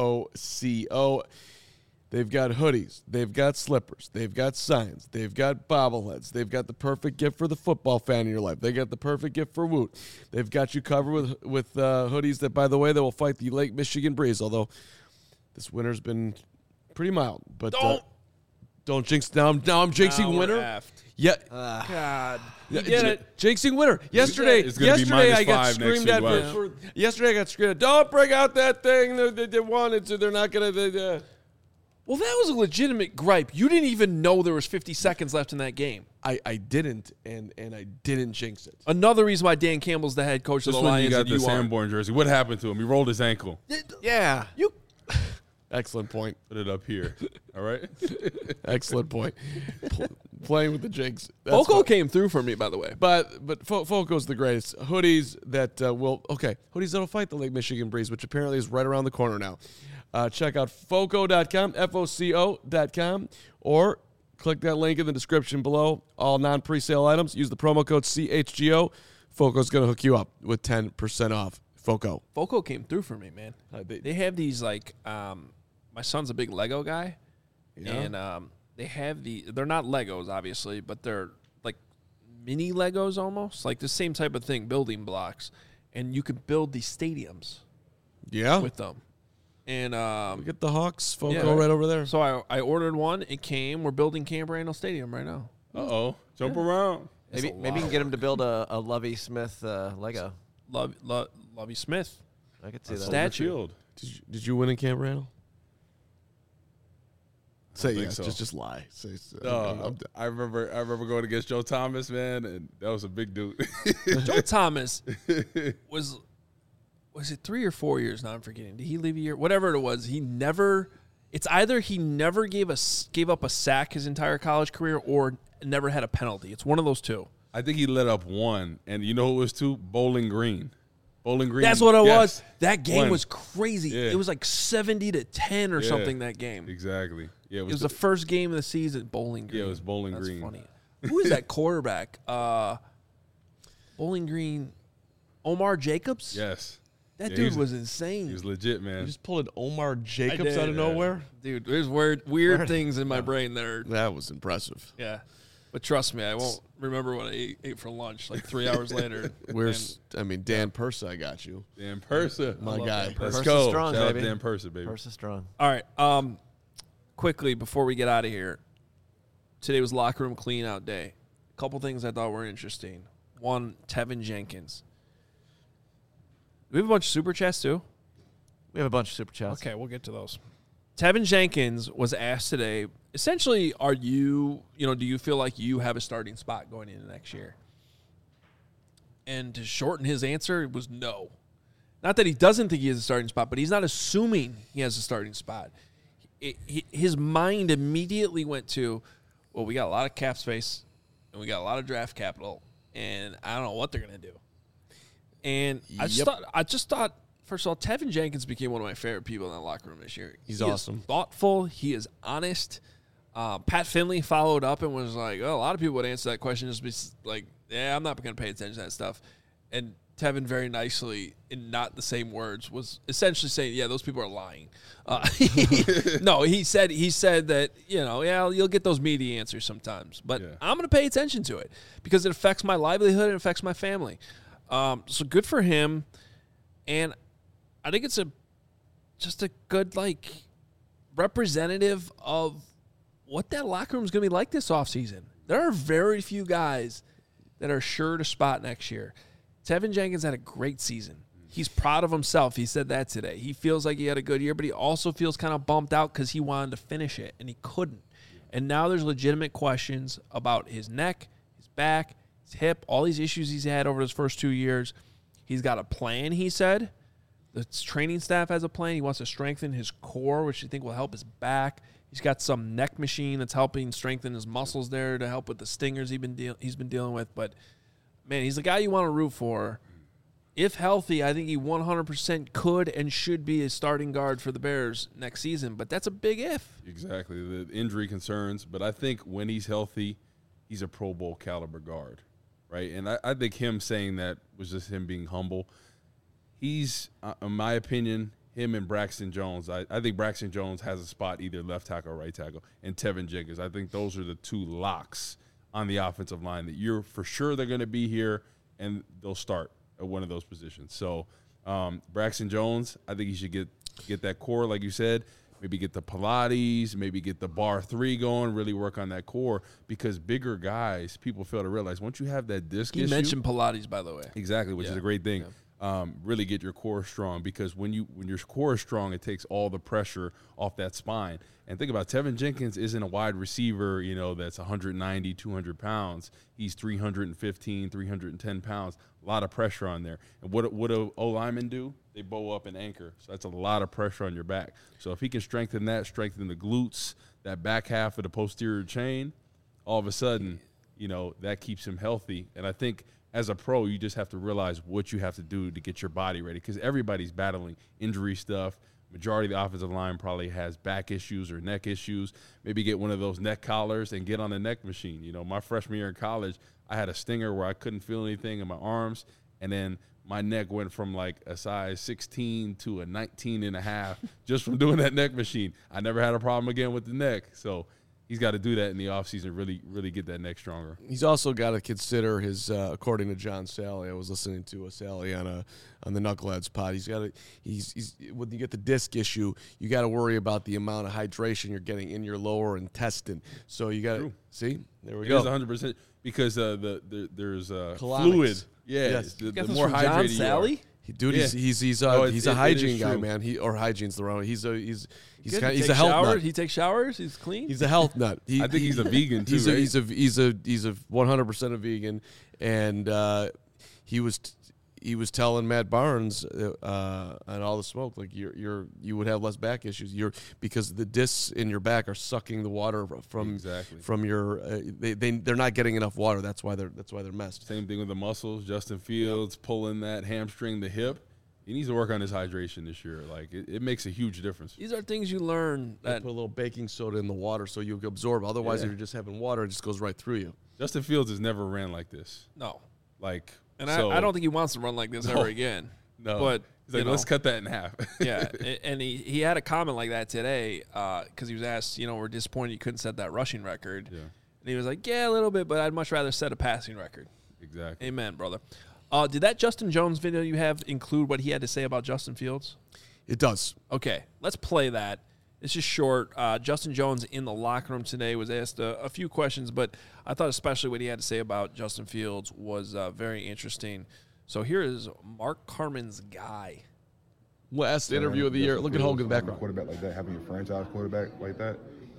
F-O-C-O. They've got hoodies. They've got slippers. They've got signs. They've got bobbleheads. They've got the perfect gift for the football fan in your life. They got the perfect gift for Woot. They've got you covered with hoodies that, by the way, that will fight the Lake Michigan breeze, although this winter's been pretty mild. But don't jinx. Now I'm jinxing winter. Aft. Yeah. God. You get it. Jinxing winter. Yesterday I got screamed at for yesterday I got screamed at. Don't bring out that thing they wanted to. They're not going to. Well, that was a legitimate gripe. You didn't even know there was 50 seconds left in that game. I didn't, and I didn't jinx it. Another reason why Dan Campbell's the head coach of the Lions. You got the Sanborn jersey. What happened to him? He rolled his ankle. Yeah. Excellent point. Put it up here. All right. Excellent point. Playing with the jinx. FOCO came through for me, by the way. But FOCO's the greatest. Hoodies that hoodies that'll fight the Lake Michigan breeze, which apparently is right around the corner now. Check out FOCO.com, FOCO.com, or click that link in the description below. All non-presale items. Use the promo code CHGO. FOCO's going to hook you up with 10% off. FOCO came through for me, man. They have these, like, my son's a big Lego guy. Yeah. And they have they're not Legos, obviously, but they're like mini Legos almost. Like the same type of thing, building blocks. And you can build these stadiums with them. And we get the Hawks FOCO right over there. So I ordered one. It came. We're building Camp Randall Stadium right now. Uh-oh. Jump around. Maybe you can get him to build a Lovie Smith Lego. Lovie Smith. I could see that. Statue. Did you win in Camp Randall? Say yes. So. Just lie. I remember going against Joe Thomas, man, and that was a big dude. Joe Thomas was it 3 or 4 years now? I'm forgetting. Did he leave a year? Whatever it was, he never It's either he never gave up a sack his entire college career or never had a penalty. It's one of those two. I think he let up one, and you know who it was two? Bowling Green. Bowling Green. That's what it yes. was. That game One. was crazy. Yeah. It was like 70-10 or something that game. Exactly. Yeah, It was the first game of the season. Bowling Green. Yeah, it was Bowling That's Green. Funny. Who is that quarterback? Bowling Green. Omar Jacobs. Yes. That Yeah, dude was insane. He was legit, You man. just pulled Omar I Jacobs did. out of nowhere. Dude, there's weird things in my brain that are That was impressive. yeah. But trust me, I won't remember what I ate for lunch like 3 hours later. Dan Persa, I got you. Dan Persa. My guy. Let's Persa go. strong, Shout baby. out Dan Persa, baby. Versus strong. All right. Quickly before we get out of here, today was locker room clean out day. A couple things I thought were interesting. One, Tevin Jenkins. Do we have a bunch of super chats too? We have a bunch of super chats. Okay, we'll get to those. Tevin Jenkins was asked today, essentially, do you feel like you have a starting spot going into next year? And to shorten his answer, it was no. Not that he doesn't think he has a starting spot, but he's not assuming he has a starting spot. His mind immediately went to, well, we got a lot of cap space, and we got a lot of draft capital, and I don't know what they're going to do. And I just thought, first of all, Tevin Jenkins became one of my favorite people in that locker room this year. He's He is awesome. thoughtful. He is honest. Pat Finley followed up and was like, oh, a lot of people would answer that question just be like, yeah, I'm not going to pay attention to that stuff. And Tevin very nicely, in not the same words, was essentially saying, yeah, those people are lying. No, he said that, you'll get those media answers sometimes. But I'm going to pay attention to it because it affects my livelihood and it affects my family. So good for him. And I think it's just a good, representative of what that locker room is going to be like this offseason. There are very few guys that are sure to spot next year. Tevin Jenkins had a great season. He's proud of himself. He said that today. He feels like he had a good year, but he also feels kind of bumped out because he wanted to finish it, and he couldn't. And now there's legitimate questions about his neck, his back, his hip, all these issues he's had over his first 2 years. He's got a plan, he said. The training staff has a plan. He wants to strengthen his core, which I think will help his back. He's got some neck machine that's helping strengthen his muscles there to help with the stingers he's been dealing with. But, man, he's the guy you want to root for. If healthy, I think he 100% could and should be a starting guard for the Bears next season. But that's a big if. Exactly. The injury concerns. But I think when he's healthy, he's a Pro Bowl caliber guard, right? And I think him saying that was just him being humble. He's, in my opinion, him and Braxton Jones. I think Braxton Jones has a spot either left tackle or right tackle. And Tevin Jenkins. I think those are the two locks on the offensive line that you're for sure they're going to be here and they'll start at one of those positions. So Braxton Jones, I think he should get that core, like you said, maybe get the Pilates, maybe get the bar 3 going, really work on that core because bigger guys, people fail to realize once you have that disc issue. You mentioned Pilates, by the way. Exactly, which is a great thing. Yeah. Really get your core strong because when your core is strong, it takes all the pressure off that spine. And think about Tevin Jenkins isn't a wide receiver, that's 190, 200 pounds. He's 315, 310 pounds. A lot of pressure on there. And what do O-linemen do? They bow up and anchor. So that's a lot of pressure on your back. So if he can strengthen the glutes, that back half of the posterior chain, all of a sudden, that keeps him healthy. And I think as a pro, you just have to realize what you have to do to get your body ready because everybody's battling injury stuff. Majority of the offensive line probably has back issues or neck issues. Maybe get one of those neck collars and get on the neck machine. My freshman year in college, I had a stinger where I couldn't feel anything in my arms, and then my neck went from like a size 16 to a 19 and a half just from doing that neck machine. I never had a problem again with the neck. So he's got to do that in the offseason, really get that neck stronger. He's also got to consider his, according to John Sally, I was listening to Sally on the Knuckleheads pod. He's when you get the disc issue, you got to worry about the amount of hydration you're getting in your lower intestine. So you got to see. There we go. It is 100% because there's Colonics. Fluid. Yeah, Yes. the Got this more from John hydrated you Sally? are. Dude, Yeah. he's No, a it hygiene is guy, true. man. Or hygiene's the wrong. He's Good. he's He a health nut. He takes showers. He's clean. He's a health nut. I think he's a vegan too. He's right? a 100% a vegan, and he was he was telling Matt Barnes on All the Smoke, like you would have less back issues. Because the discs in your back are sucking the water from your. They're not getting enough water. That's why they're messed. Same thing with the muscles. Justin Fields pulling that hamstring, the hip. He needs to work on his hydration this year. Like it makes a huge difference. These are things you learn. That put a little baking soda in the water so you absorb. Otherwise, if you're just having water, it just goes right through you. Justin Fields has never ran like this. No. Like, and I don't think he wants to run like this ever again. No. But he's like, let's cut that in half. Yeah. And he had a comment like that today because he was asked, we're disappointed you couldn't set that rushing record. Yeah. And he was like, yeah, a little bit, but I'd much rather set a passing record. Exactly. Amen, brother. Did that Justin Jones video you have include what he had to say about Justin Fields? It does. Okay, let's play that. It's just short. Justin Jones in the locker room today was asked a few questions, but I thought especially what he had to say about Justin Fields was very interesting. So here is Mark Carman's guy. Last interview of the year. Look at Hogan in the background. Quarterback like that, having your franchise quarterback like that.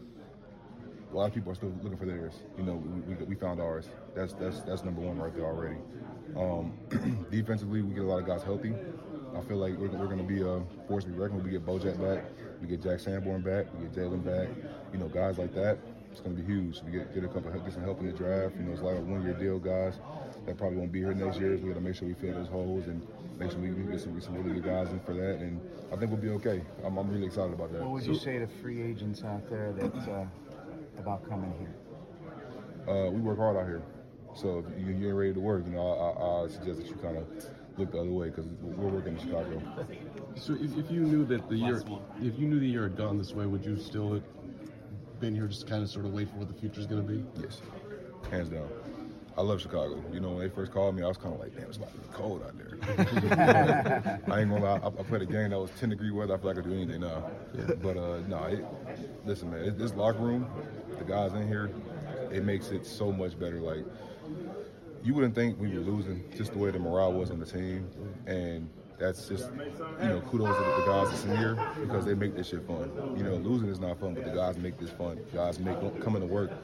A lot of people are still looking for theirs. We found ours. That's number one right there already. Defensively, we get a lot of guys healthy. I feel like we're going to be a force to be reckoned with. We get Bojack back, we get Jack Sanborn back, we get Jalen back. Guys like that, it's going to be huge. We get some help in the draft. It's a lot of one-year deal guys that probably won't be here next year. So we got to make sure we fill those holes and make sure we get some really good guys in for that. And I think we'll be okay. I'm really excited about that. What would you say to free agents out there that about coming here? We work hard out here. So if you ain't ready to work, I suggest that you kind of look the other way because we're working in Chicago. So if you knew that the year had gone this way, would you still have been here just kind of sort of wait for what the future's going to be? Yes, hands down. I love Chicago. When they first called me, I was kind of like, damn, it's about to be cold out there. I ain't gonna lie. I played a game that was 10-degree weather. I feel like I could do anything now. Yeah. But listen, man, this locker room, the guys in here, it makes it so much better. Like, you wouldn't think we were losing just the way the morale was on the team. And that's just, kudos to the guys that's in here because they make this shit fun. Losing is not fun, but the guys make this fun. Guys make coming to work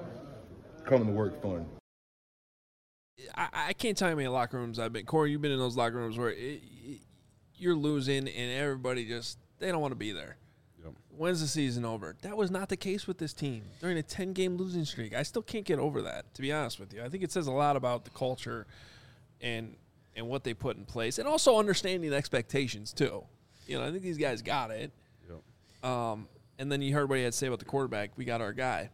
fun. I can't tell you how many locker rooms I've been. Corey, you've been in those locker rooms where you're losing and everybody they don't want to be there. Yep. When's the season over? That was not the case with this team during a 10-game losing streak. I still can't get over that, to be honest with you. I think it says a lot about the culture and what they put in place, and also understanding expectations too. I think these guys got it. Yep. And then you heard what he had to say about the quarterback. We got our guy.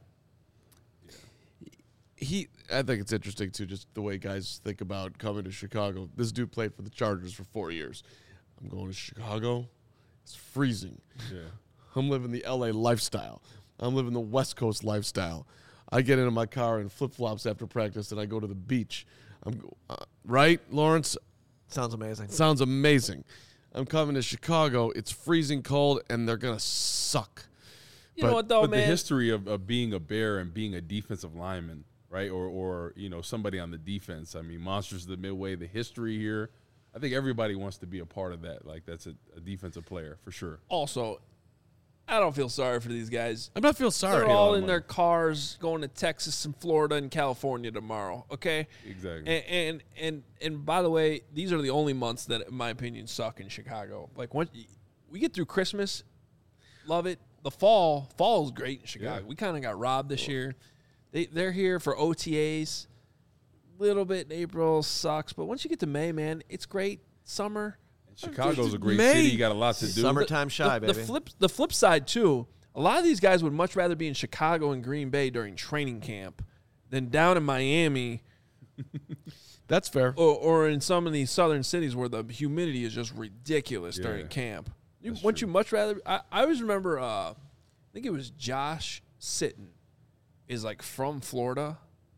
I think it's interesting too, just the way guys think about coming to Chicago. This dude played for the Chargers for 4 years. I'm going to Chicago. It's freezing. Yeah. I'm living the LA lifestyle. I'm living the West Coast lifestyle. I get into my car in flip-flops after practice and I go to the beach. Right, Lawrence? Sounds amazing. Sounds amazing. I'm coming to Chicago. It's freezing cold and they're going to suck. You know what, though, but man? the history of being a Bear and being a defensive lineman, right, or somebody on the defense. I mean, Monsters of the Midway, the history here. I think everybody wants to be a part of that. Like, that's a defensive player for sure. Also, I don't feel sorry for these guys. I'm not feel sorry. They're all in their cars going to Texas and Florida and California tomorrow, okay? Exactly. And by the way, these are the only months that, in my opinion, suck in Chicago. Like, once we get through Christmas, love it. The fall is great in Chicago. Yeah. We kind of got robbed this year. They're here for OTAs. Little bit in April sucks, but once you get to May, man, it's great. Summer. And Chicago's a great May. city. You got a lot to do. Summertime shy, baby. The flip side, too, a lot of these guys would much rather be in Chicago and Green Bay during training camp than down in Miami. That's fair. Or in some of these southern cities where the humidity is just ridiculous during camp. Wouldn't you much rather? I always remember, I think it was Josh Sitton is like from Florida.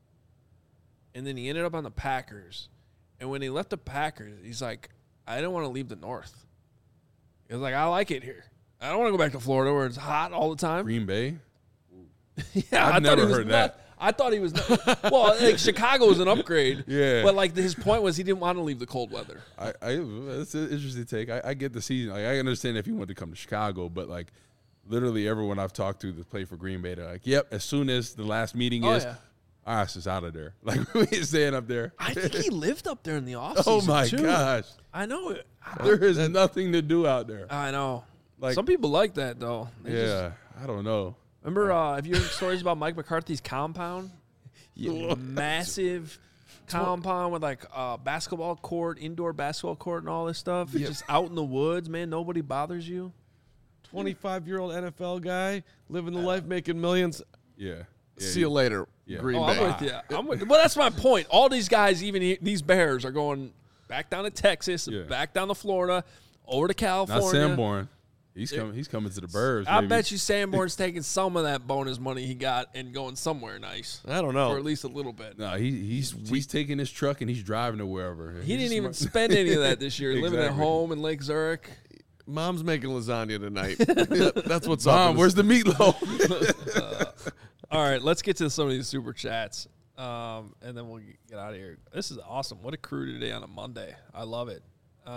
And then he ended up on the Packers. And when he left the Packers, he's like, I don't want to leave the North. He was like, I like it here. I don't want to go back to Florida where it's hot all the time. Green Bay? Yeah, I've never heard that. I thought he was well, like Chicago was an upgrade. Yeah. But like his point was he didn't want to leave the cold weather. That's an interesting take. I get the season. Like, I understand if he wanted to come to Chicago, but like literally everyone I've talked to that played for Green Bay, they're like, yep, as soon as the last meeting our ass is out of there. Like, we ain't staying up there. I think he lived up there in the offseason. Oh, my too. gosh. I know it. There is nothing to do out there. I know. Like, Some people like that, though. They just- I don't know. remember, have you heard stories about Mike McCarthy's compound? Massive compound with, like, basketball court, indoor basketball court and all this stuff. It's just out in the woods, man. Nobody bothers you. 25-year-old NFL guy living the life, making millions. Yeah. See you later, Yeah. Green Oh, Bay. I'm with you. Well, that's my point. All these guys, even these Bears, are going back down to Texas, Yeah. back down to Florida, over to California. Not Sanborn. He's coming to the Burbs. I baby. bet you Sanborn's taking some of that bonus money he got and going somewhere nice, I don't know. or at least a little bit. No, he's taking his truck and he's driving it wherever. He didn't He's even smart. spend any of that this year. Living at Exactly. home in Lake Zurich. Mom's making lasagna tonight. That's what's up. Mom, where's the meatloaf? All right, let's get to some of these super chats, and then we'll get out of here. This is awesome. What a crew today on a Monday. I love it.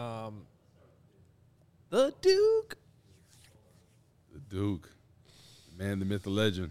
The Duke. The Duke. The man, the myth, the legend.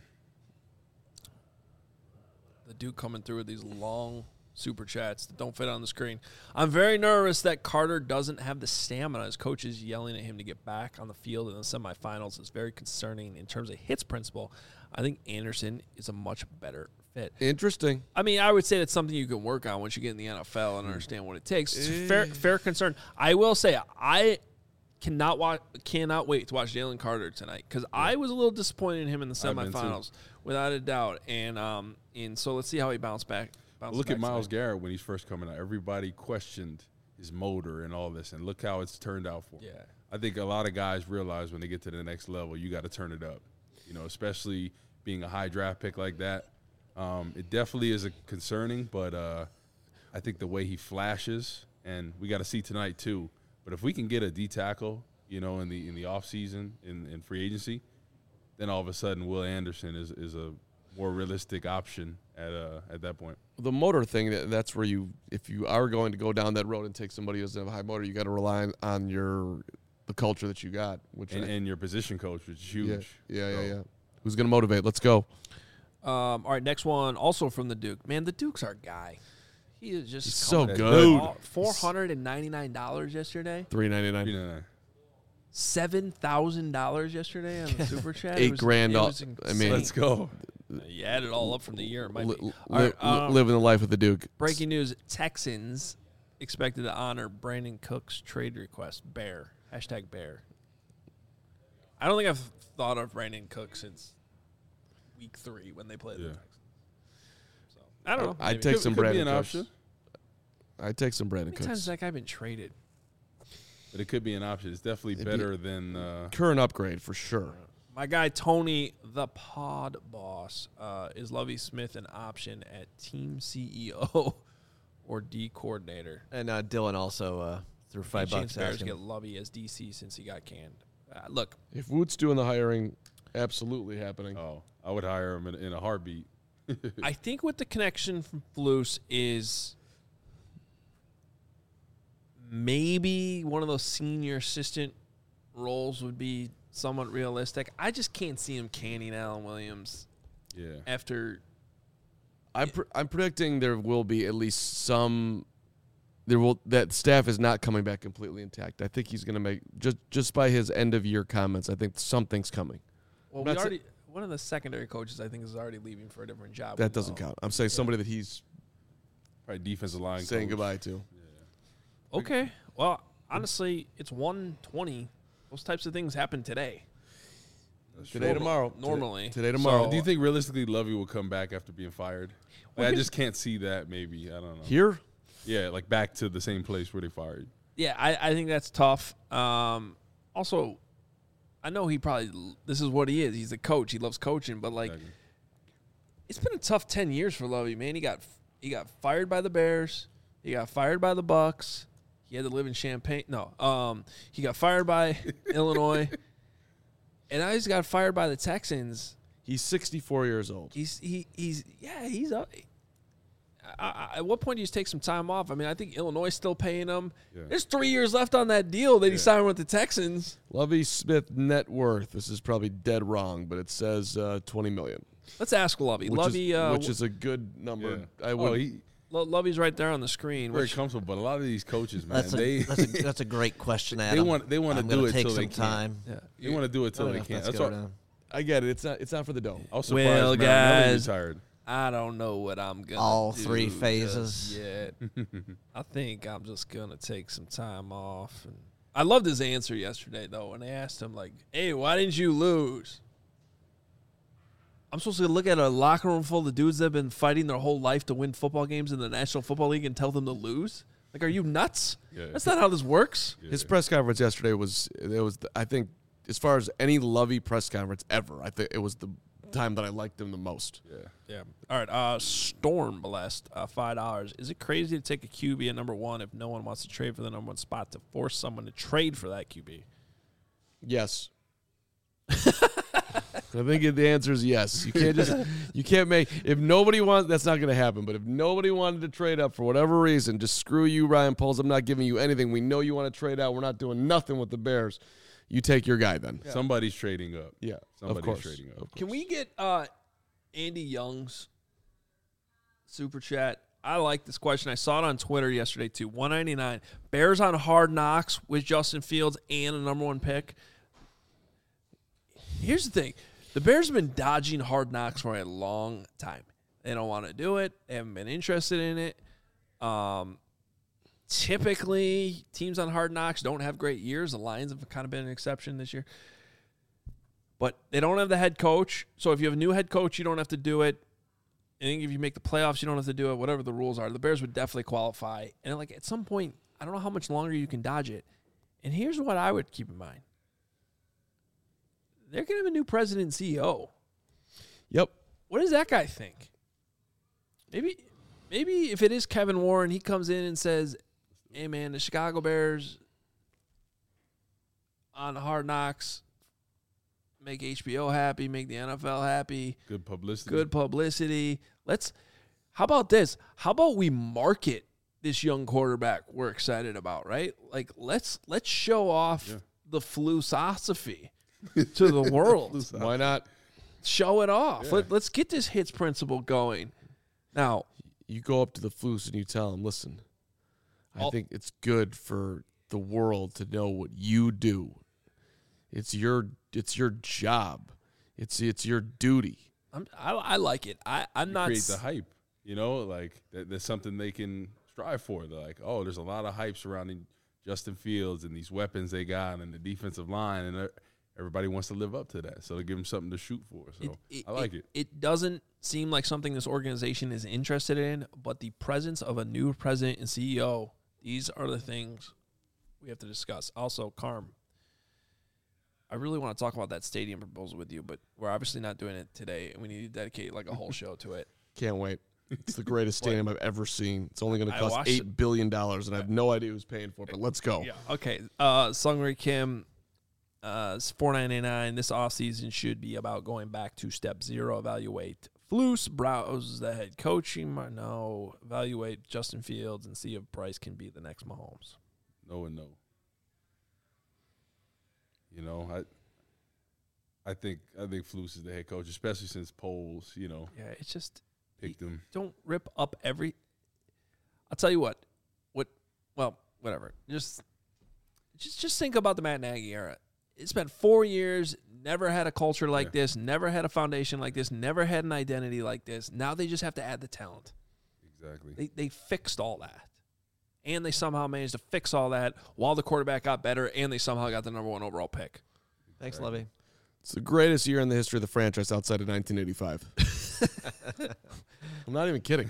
The Duke coming through with these long super chats that don't fit on the screen. I'm very nervous that Carter doesn't have the stamina. His coach is yelling at him to get back on the field in the semifinals. It's very concerning in terms of hits principle. I think Anderson is a much better fit. Interesting. I mean, I would say that's something you can work on once you get in the NFL and understand what it takes. It's a fair concern. I will say I cannot wait to watch Jalen Carter tonight because I was a little disappointed in him in the I've been too. semifinals, without a doubt. And so let's see how he bounces back. Look at Myles Garrett when he's first coming out. Everybody questioned his motor and all this, and look how it's turned out for him. Yeah. I think a lot of guys realize when they get to the next level, you got to turn it up. You know, especially being a high draft pick like that. It definitely is concerning, but I think the way he flashes, and we got to see tonight too. But if we can get a D tackle, you know, in the offseason, in free agency, then all of a sudden Will Anderson is a more realistic option at that point. The motor thing, that's where if you are going to go down that road and take somebody who doesn't have a high motor, you got to rely on the culture that you got, And your position coach, which is huge. Yeah. Who's going to motivate? Let's go. All right, next one, also from the Duke. Man, the Duke's our guy. He is just so coming good. in. $499 yesterday. $399. $7,000 yesterday on the super chat. $8 grand. It was I mean, Let's go. You add it all up from the year. It might be. All Living the life of the Duke. Breaking news: Texans expected to honor Brandon Cook's trade request. Bear. #Bear. I don't think I've thought of Brandon Cook since week 3 when they played the Texans. So I don't know. I'd take some Could be Brandon an Cooks. option. I'd take some Brandon How many times Cooks. has that guy been traded? But it could be an option. It's definitely better than Current upgrade for sure. My guy Tony, the pod boss, is Lovie Smith an option at team CEO or D coordinator? And Dylan also threw $5 Chance Bears asking. get Lovie as DC since he got canned. Look, If Woot's doing the hiring, absolutely happening. Oh, I would hire him in a heartbeat. I think what the connection from Flus is maybe one of those senior assistant roles would be somewhat realistic. I just can't see him canning Alan Williams Yeah. after. I'm predicting there will be at least some. That staff is not coming back completely intact. I think he's going to make just by his end of year comments. I think something's coming. Well, That's one of the secondary coaches I think is already leaving for a different job. That doesn't count. I'm saying somebody that he's Probably defensive line saying coach. goodbye to. Okay. Well, honestly, it's 1:20. Those types of things happen today. Today, tomorrow. Normally. Today, tomorrow. So, do you think realistically Lovey will come back after being fired? Well, I here's- just can't see that. Maybe I don't know. Here? Yeah, like back to the same place where they fired. Yeah, I think that's tough. Also, I know this is what he is. He's a coach. He loves coaching, but like, Exactly. it's been a tough 10 years for Lovey, man. He got fired by the Bears. He got fired by the Bucks. He had to live in Champaign. No, he got fired by Illinois, and now he's got fired by the Texans. He's 64 years old. He's up. At what point do you just take some time off? I mean, I think Illinois is still paying him. Yeah. There's 3 years left on that deal that he Yeah. signed with the Texans. Lovie Smith net worth. This is probably dead wrong, but it says $20 million. Let's ask Lovey. Lovey, which is a good number. Yeah. I would. Lovey's right there on the screen. Very comfortable, but a lot of these coaches, man, That's a great question, Adam. they want to do it till they some time. can't. They want to do it till they can't. That's what. I get it. It's not for the dome. I was surprised Marinelli retired. I don't know what I'm gonna all do 3 phases. yet. I think I'm just gonna take some time off. And I loved his answer yesterday though, when they asked him like, "Hey, why didn't you lose?" I'm supposed to look at a locker room full of dudes that have been fighting their whole life to win football games in the National Football League and tell them to lose? Like, are you nuts? Yeah. That's not how this works. Yeah. His press conference yesterday was I think as far as any Lovey press conference ever, I think it was the time that I liked him the most. Yeah. All right. Storm Blessed, $5. Is it crazy to take a QB at number 1 if no one wants to trade for the number 1 spot to force someone to trade for that QB? Yes. I think the answer is yes. You can't make, if nobody wants, that's not going to happen. But if nobody wanted to trade up for whatever reason, just screw you, Ryan Poles. I'm not giving you anything. We know you want to trade out. We're not doing nothing with the Bears. You take your guy then. Yeah. Somebody's trading up. Yeah, somebody's trading up. Can we get Andy Young's super chat? I like this question. I saw it on Twitter yesterday too. $1.99. Bears on Hard Knocks with Justin Fields and a number 1 pick. Here's the thing. The Bears have been dodging Hard Knocks for a long time. They don't want to do it. They haven't been interested in it. Typically, teams on Hard Knocks don't have great years. The Lions have kind of been an exception this year. But they don't have the head coach. So if you have a new head coach, you don't have to do it. I think if you make the playoffs, you don't have to do it. Whatever the rules are, the Bears would definitely qualify. And like at some point, I don't know how much longer you can dodge it. And here's what I would keep in mind. They're going to have a new president and CEO. Yep. What does that guy think? Maybe if it is Kevin Warren, he comes in and says, "Hey, man, the Chicago Bears on Hard Knocks make HBO happy, make the NFL happy. Good publicity. Good publicity. How about this? How about we market this young quarterback we're excited about, right? Like, let's show off the philosophy to the world. Why not? Show it off. Yeah. Let's get this hits principle going. Now, you go up to the Flus and you tell him, listen, I think it's good for the world to know what you do. It's your job. It's your duty. I like it. I'm not create the hype. You know, like there's something they can strive for. They're like, oh, there's a lot of hype surrounding Justin Fields and these weapons they got and the defensive line, and everybody wants to live up to that. So they give them something to shoot for. So I like it. It doesn't seem like something this organization is interested in, but the presence of a new president and CEO, these are the things we have to discuss. Also, Carm, I really want to talk about that stadium proposal with you, but we're obviously not doing it today, and we need to dedicate like a whole show to it. Can't wait. It's the greatest stadium I've ever seen. It's only going to cost $8 it. billion, and I have no idea who's paying for it, but let's go. Yeah. Okay. Sungri Kim, it's $4.99. This offseason should be about going back to step 0, evaluate Flus, browse the head coaching. No, evaluate Justin Fields and see if Bryce can be the next Mahomes. No and no. You know, I think Flus is the head coach, especially since Poles, you know. Yeah, it's just picked him. Don't rip up every. I'll tell you what. Well, whatever. Just think about the Matt Nagy era. It spent 4 years, never had a culture like this, never had a foundation like this, never had an identity like this. Now they just have to add the talent. Exactly. They fixed all that. And they somehow managed to fix all that while the quarterback got better, and they somehow got the number 1 overall pick. Thanks, Levy. It's the greatest year in the history of the franchise outside of 1985. I'm not even kidding.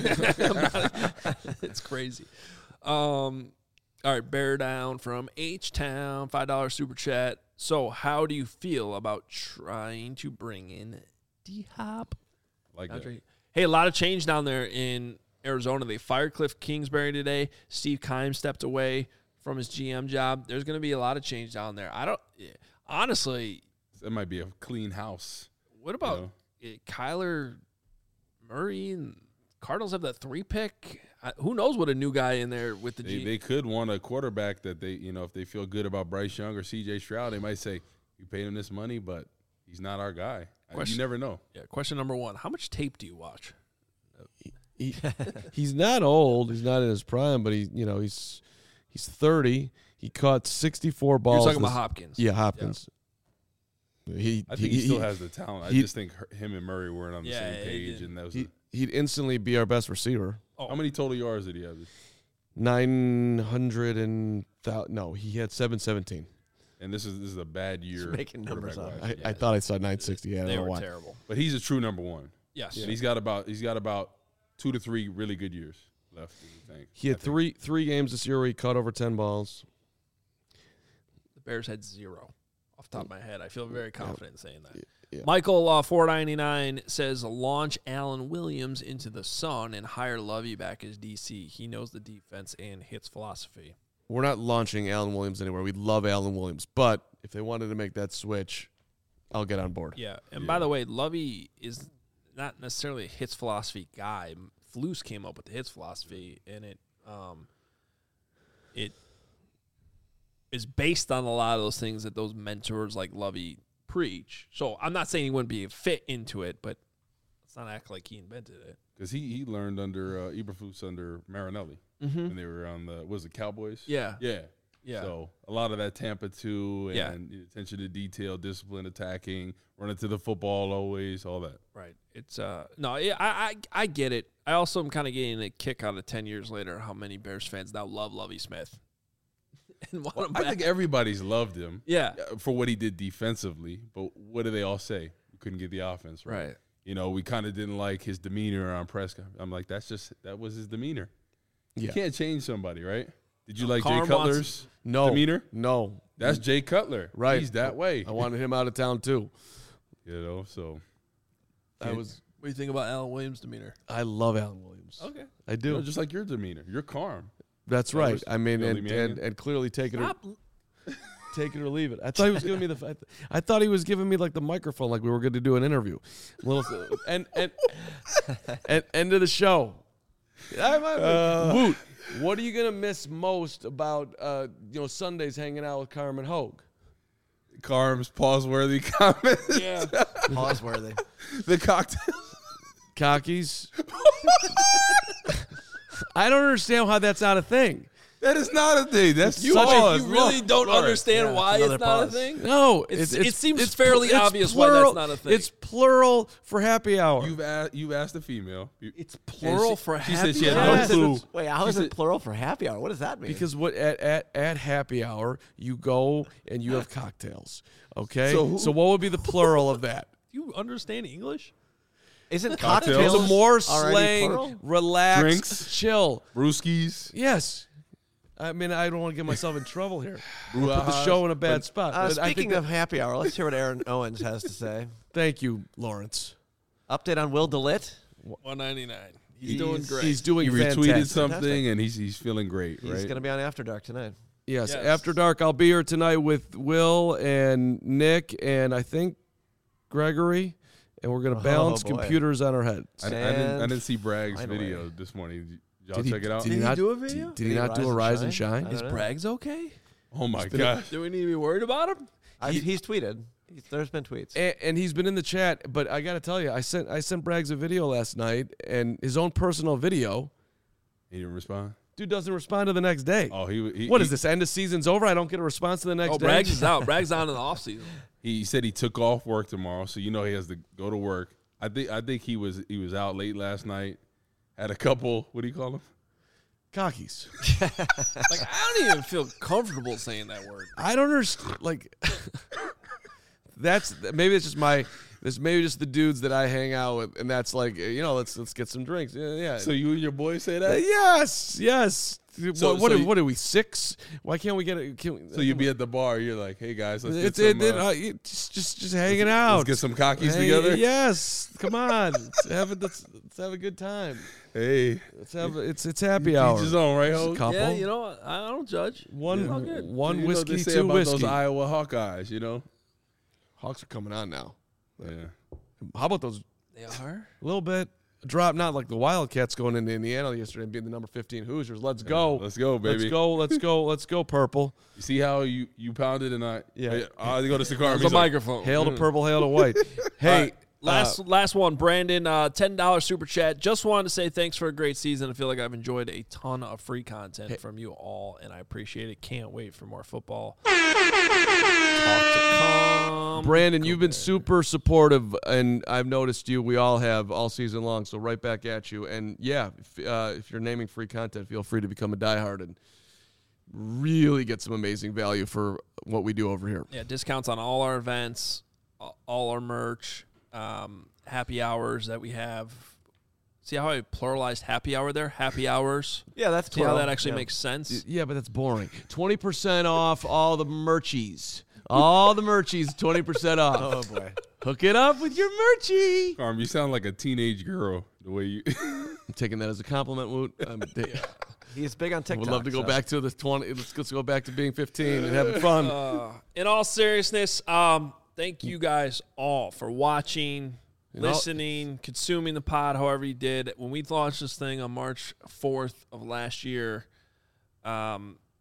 It's crazy. All right, Bear Down from H-Town, $5 super chat. So how do you feel about trying to bring in D-Hop? Like that. Hey, a lot of change down there in Arizona. They fired Cliff Kingsbury today. Steve Keim stepped away from his GM job. There's going to be a lot of change down there. Honestly, that might be a clean house. What about Kyler Murray and Cardinals have that 3 pick? Who knows what a new guy in there with the They could want a quarterback that they, you know, if they feel good about Bryce Young or C.J. Stroud, they might say, you paid him this money, but he's not our guy. You never know. Yeah. Question number 1: how much tape do you watch? He's not old. He's not in his prime, but he's 30. He caught 64 balls. You're talking about Hopkins. Yeah, Hopkins. I think he still has the talent. I just think him and Murray weren't on the same page, and that was he'd instantly be our best receiver. How many total yards did he have? 900 and no, he had 717. And this is a bad year. Just making numbers up. I thought I saw 960. Yeah, I They don't know were why. terrible. But he's a true number one. Yes. And he's got about 2 to 3 really good years left. I think. He had three games this year where he caught over 10 balls. The Bears had 0 off the top of my head. I feel very confident in saying that. Yeah. Michael 499 says launch Alan Williams into the sun and hire Lovey back as DC. He knows the defense and hits philosophy. We're not launching Alan Williams anywhere. We love Alan Williams, but if they wanted to make that switch, I'll get on board. Yeah. And by the way, Lovey is not necessarily a hits philosophy guy. Flus came up with the hits philosophy, and it is based on a lot of those things that those mentors like Lovey preach. So I'm not saying he wouldn't be a fit into it, but let's not act like he invented it. Because he learned under Eberflus under Marinelli when they were on the Cowboys? Yeah. Yeah. Yeah. So a lot of that Tampa 2 Yeah. and attention to detail, discipline, attacking, running to the football always, all that. Right. It's I get it. I also am kind of getting a kick out of 10 years later how many Bears fans now love Lovie Smith. And want him I back. think everybody's loved him. Yeah. For what he did defensively, but what do they all say? We couldn't get the offense right. Right. You know, we kind of didn't like his demeanor on press conference. I'm like, that was his demeanor. Yeah. You can't change somebody, right? Did you like Jay Carm Cutler's demeanor? No. That's Jay Cutler. Right. He's that way. I wanted him out of town, too. You know, so. What do you think about Alan Williams' demeanor? I love Alan Williams. Okay. I do. You know, just like your demeanor. You're calm. That's right. I mean, Billy and Mannion. clearly take it Stop. take it or leave it. I thought he was giving me I thought he was giving me like the microphone, like we were going to do an interview. And end of the show. Woot. What are you going to miss most about Sundays hanging out with Carmen Hogue? Carm's pause-worthy comment. Yeah. Pause worthy. The cocktail. Cockies. I don't understand how that's not a thing. That is not a thing. That's You really don't understand why another it's not pause. a thing? No, it seems fairly obvious why plural. that's not a thing. It's plural for happy hour. You've asked a female. It's plural And for she happy said she had hour? no clue. Wait, how is it plural for happy hour? What does that mean? Because at happy hour you go and you have cocktails. Okay, so what would be the plural of that? Do you understand English? Isn't Cocktails. cocktails It's a more already slang, plural? relaxed, Drinks. chill. Brewskis. Yes. I mean, I don't want to get myself in trouble here. Put the Brouhaha. show in a bad spot. But I Speaking think of happy hour, let's hear what Aaron Owens has to say. thank you, Lawrence. Update on Will DeLitt. 199. He's doing great. He's doing He retweeted fantastic. something, and he's feeling great, He's right? going to be on After Dark tonight. Yes, Yes. After Dark. I'll be here tonight with Will and Nick and I think Gregory, and we're going to balance boy. computers on our heads. I didn't see Bragg's Find a video way. this morning. Did y'all check it out? Did he he not do a video? Did he not do a Rise and Shine? I Is don't know. Braggs okay? Oh my gosh! Do we need to be worried about him? He's tweeted. There's been tweets. And he's been in the chat, but I got to tell you, I sent Braggs a video last night, and his own personal video. He didn't respond. Dude doesn't respond to the next day. Oh, What is this? End of season's over. I don't get a response to the next day. Braggs is out. Braggs on in the offseason. He said he took off work tomorrow, so you know he has to go to work. I think he was out late last night. Had a couple. What do you call them? Cockies. Like, I don't even feel comfortable saying that word. I don't understand. Like, maybe it's just maybe just the dudes that I hang out with, and that's like, let's get some drinks. Yeah. So you and your boy say that? Yes. So what you- are we, 6? Why can't we get it? So you be at the bar. You're like, hey guys, let's get just hanging out. let's get some cockies together. Yes, come on. Let's have a good time. Hey, Let's have it's happy hour. each his own, right, Just a Ho? couple. Yeah, you know, I don't judge. one all good. one You know what whiskey, they say 2 about whiskey. those Iowa Hawkeyes, you know? Hawks are coming on now. Yeah. How about those? They are. A little bit. drop, not like the Wildcats going into Indiana yesterday and being the number 15 Hoosiers. Let's go. Let's go, baby. Let's go, Purple. You see how you pounded and I go to Sakar. The microphone. Hail to Purple, hail to White. Hey, Last one, Brandon, $10 super chat. Just wanted to say thanks for a great season. I feel like I've enjoyed a ton of free content from you all, and I appreciate it. Can't wait for more football. Brandon, you've been super supportive, and I've noticed you. We all have all season long, so right back at you. And, yeah, if you're naming free content, feel free to become a diehard and really get some amazing value for what we do over here. Yeah, discounts on all our events, all our merch. Happy hours that we have. See how I pluralized happy hour there? Happy hours. Yeah, that's See plural. how that actually makes sense? Yeah, but that's boring. 20% off all the merchies. All the merchies, 20% off. Oh, boy. Hook it up with your merchie. Carm, you sound like a teenage girl the way you. I'm taking that as a compliment, Woot. He's big on TikTok. Would love to go back to the 20. Let's go back to being 15 and having fun. In all seriousness, thank you guys all for watching, listening, consuming the pod however you did. When we launched this thing on March 4th of last year, I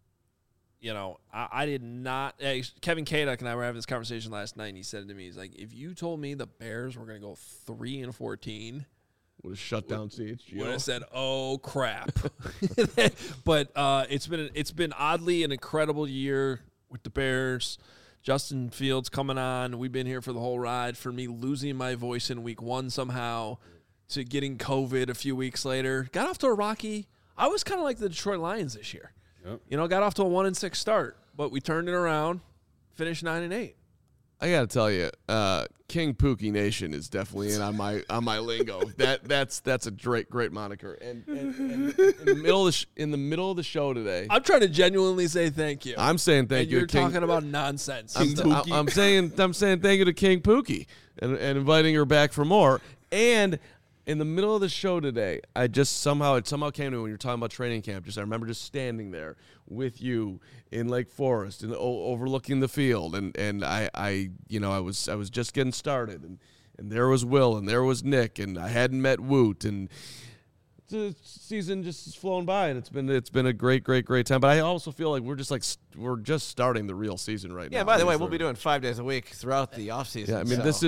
did not Kevin Kaduk and I were having this conversation last night, and he said to me, he's like, if you told me the Bears were going to go 3-14, would have shut down CHGO. would have said, oh crap. But it's been oddly an incredible year with the Bears. Justin Fields coming on. We've been here for the whole ride. For me, losing my voice in week 1 somehow to getting COVID a few weeks later. Got off to a rocky. I was kind of like the Detroit Lions this year. Yep. Got off to a 1-6 start, but we turned it around, finished 9-8. I got to tell you, King Pookie Nation is definitely in on my lingo. That's a great moniker. And in the middle of the show today, I'm trying to genuinely say thank you. I'm saying thank you. You're talking about nonsense. I'm saying thank you to King Pookie and inviting her back for more. And in the middle of the show today, it somehow came to me when you're talking about training camp. I remember just standing there with you in Lake Forest and overlooking the field, and I was just getting started, and there was Will and there was Nick, and I hadn't met Woot, and the season just has flown by, and it's been a great time. But I also feel like we're just starting the real season right now. Yeah. By the way, we'll be doing 5 days a week throughout the offseason. Yeah, I mean, this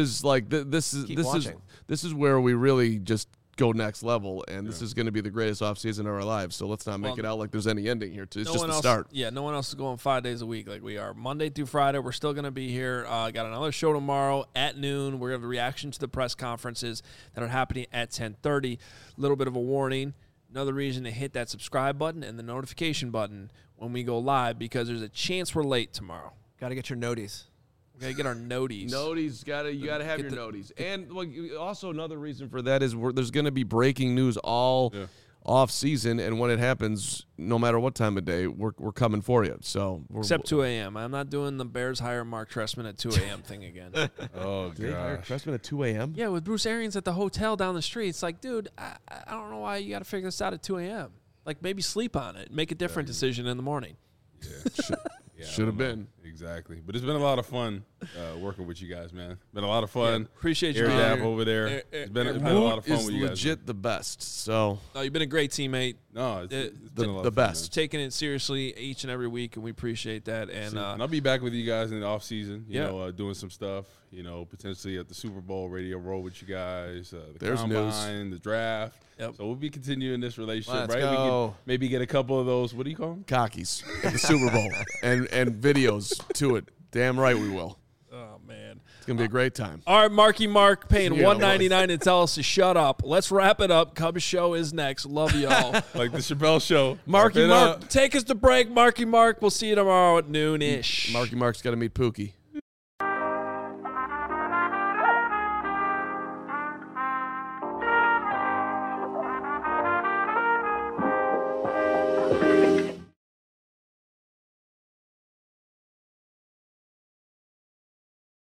is where we really just go next level, and this is going to be the greatest offseason of our lives. So let's not make it out like there's any ending here. It's just the start. Yeah, no one else is going 5 days a week like we are. Monday through Friday, we're still going to be here. Got another show tomorrow at noon. We're going to have a reaction to the press conferences that are happening at 10:30. A little bit of a warning. Another reason to hit that subscribe button and the notification button when we go live, because there's a chance we're late tomorrow. Got to get your noties. We got to get our noties. You got to have your noties. And also another reason for that is there's going to be breaking news all off season, and when it happens, no matter what time of day, we're coming for you. So except 2 a.m. I'm not doing the Bears hire Mark Trestman at 2 a.m. thing again. Oh, Did they hire gosh. Trestman at 2 a.m.? Yeah, with Bruce Arians at the hotel down the street. It's like, dude, I don't know why you got to figure this out at 2 a.m. Like, maybe sleep on it. Make a different decision in the morning. Yeah, Should have been. Exactly. But it's been a lot of fun working with you guys, man. Been a lot of fun. Yeah, appreciate you Air being Dap here. over there. It's been a lot of fun with you guys. Legit the best. So No, you've been a great teammate. No, it's been a lot the of fun, best. Taking it seriously each and every week, and we appreciate that. man. And And I'll be back with you guys in the off season. You Yeah. know, doing some stuff. You know, potentially at the Super Bowl radio roll with you guys. The There's combine, the draft. Yep. So we'll be continuing this relationship, Let's right? go. We can maybe get a couple of those. What do you call them? Cockies at the Super Bowl and videos to it. Damn right we will. oh man, It's gonna be a great time. all right, Marky Mark paying Yeah, $1.99 to tell us to shut up. Let's wrap it up. Cubs show is next. Love y'all. Like the Chappelle Show. Marky Wrap it Mark. up. Take us to break, Marky Mark. We'll see you tomorrow at noon ish. Marky Mark's got to meet Pookie.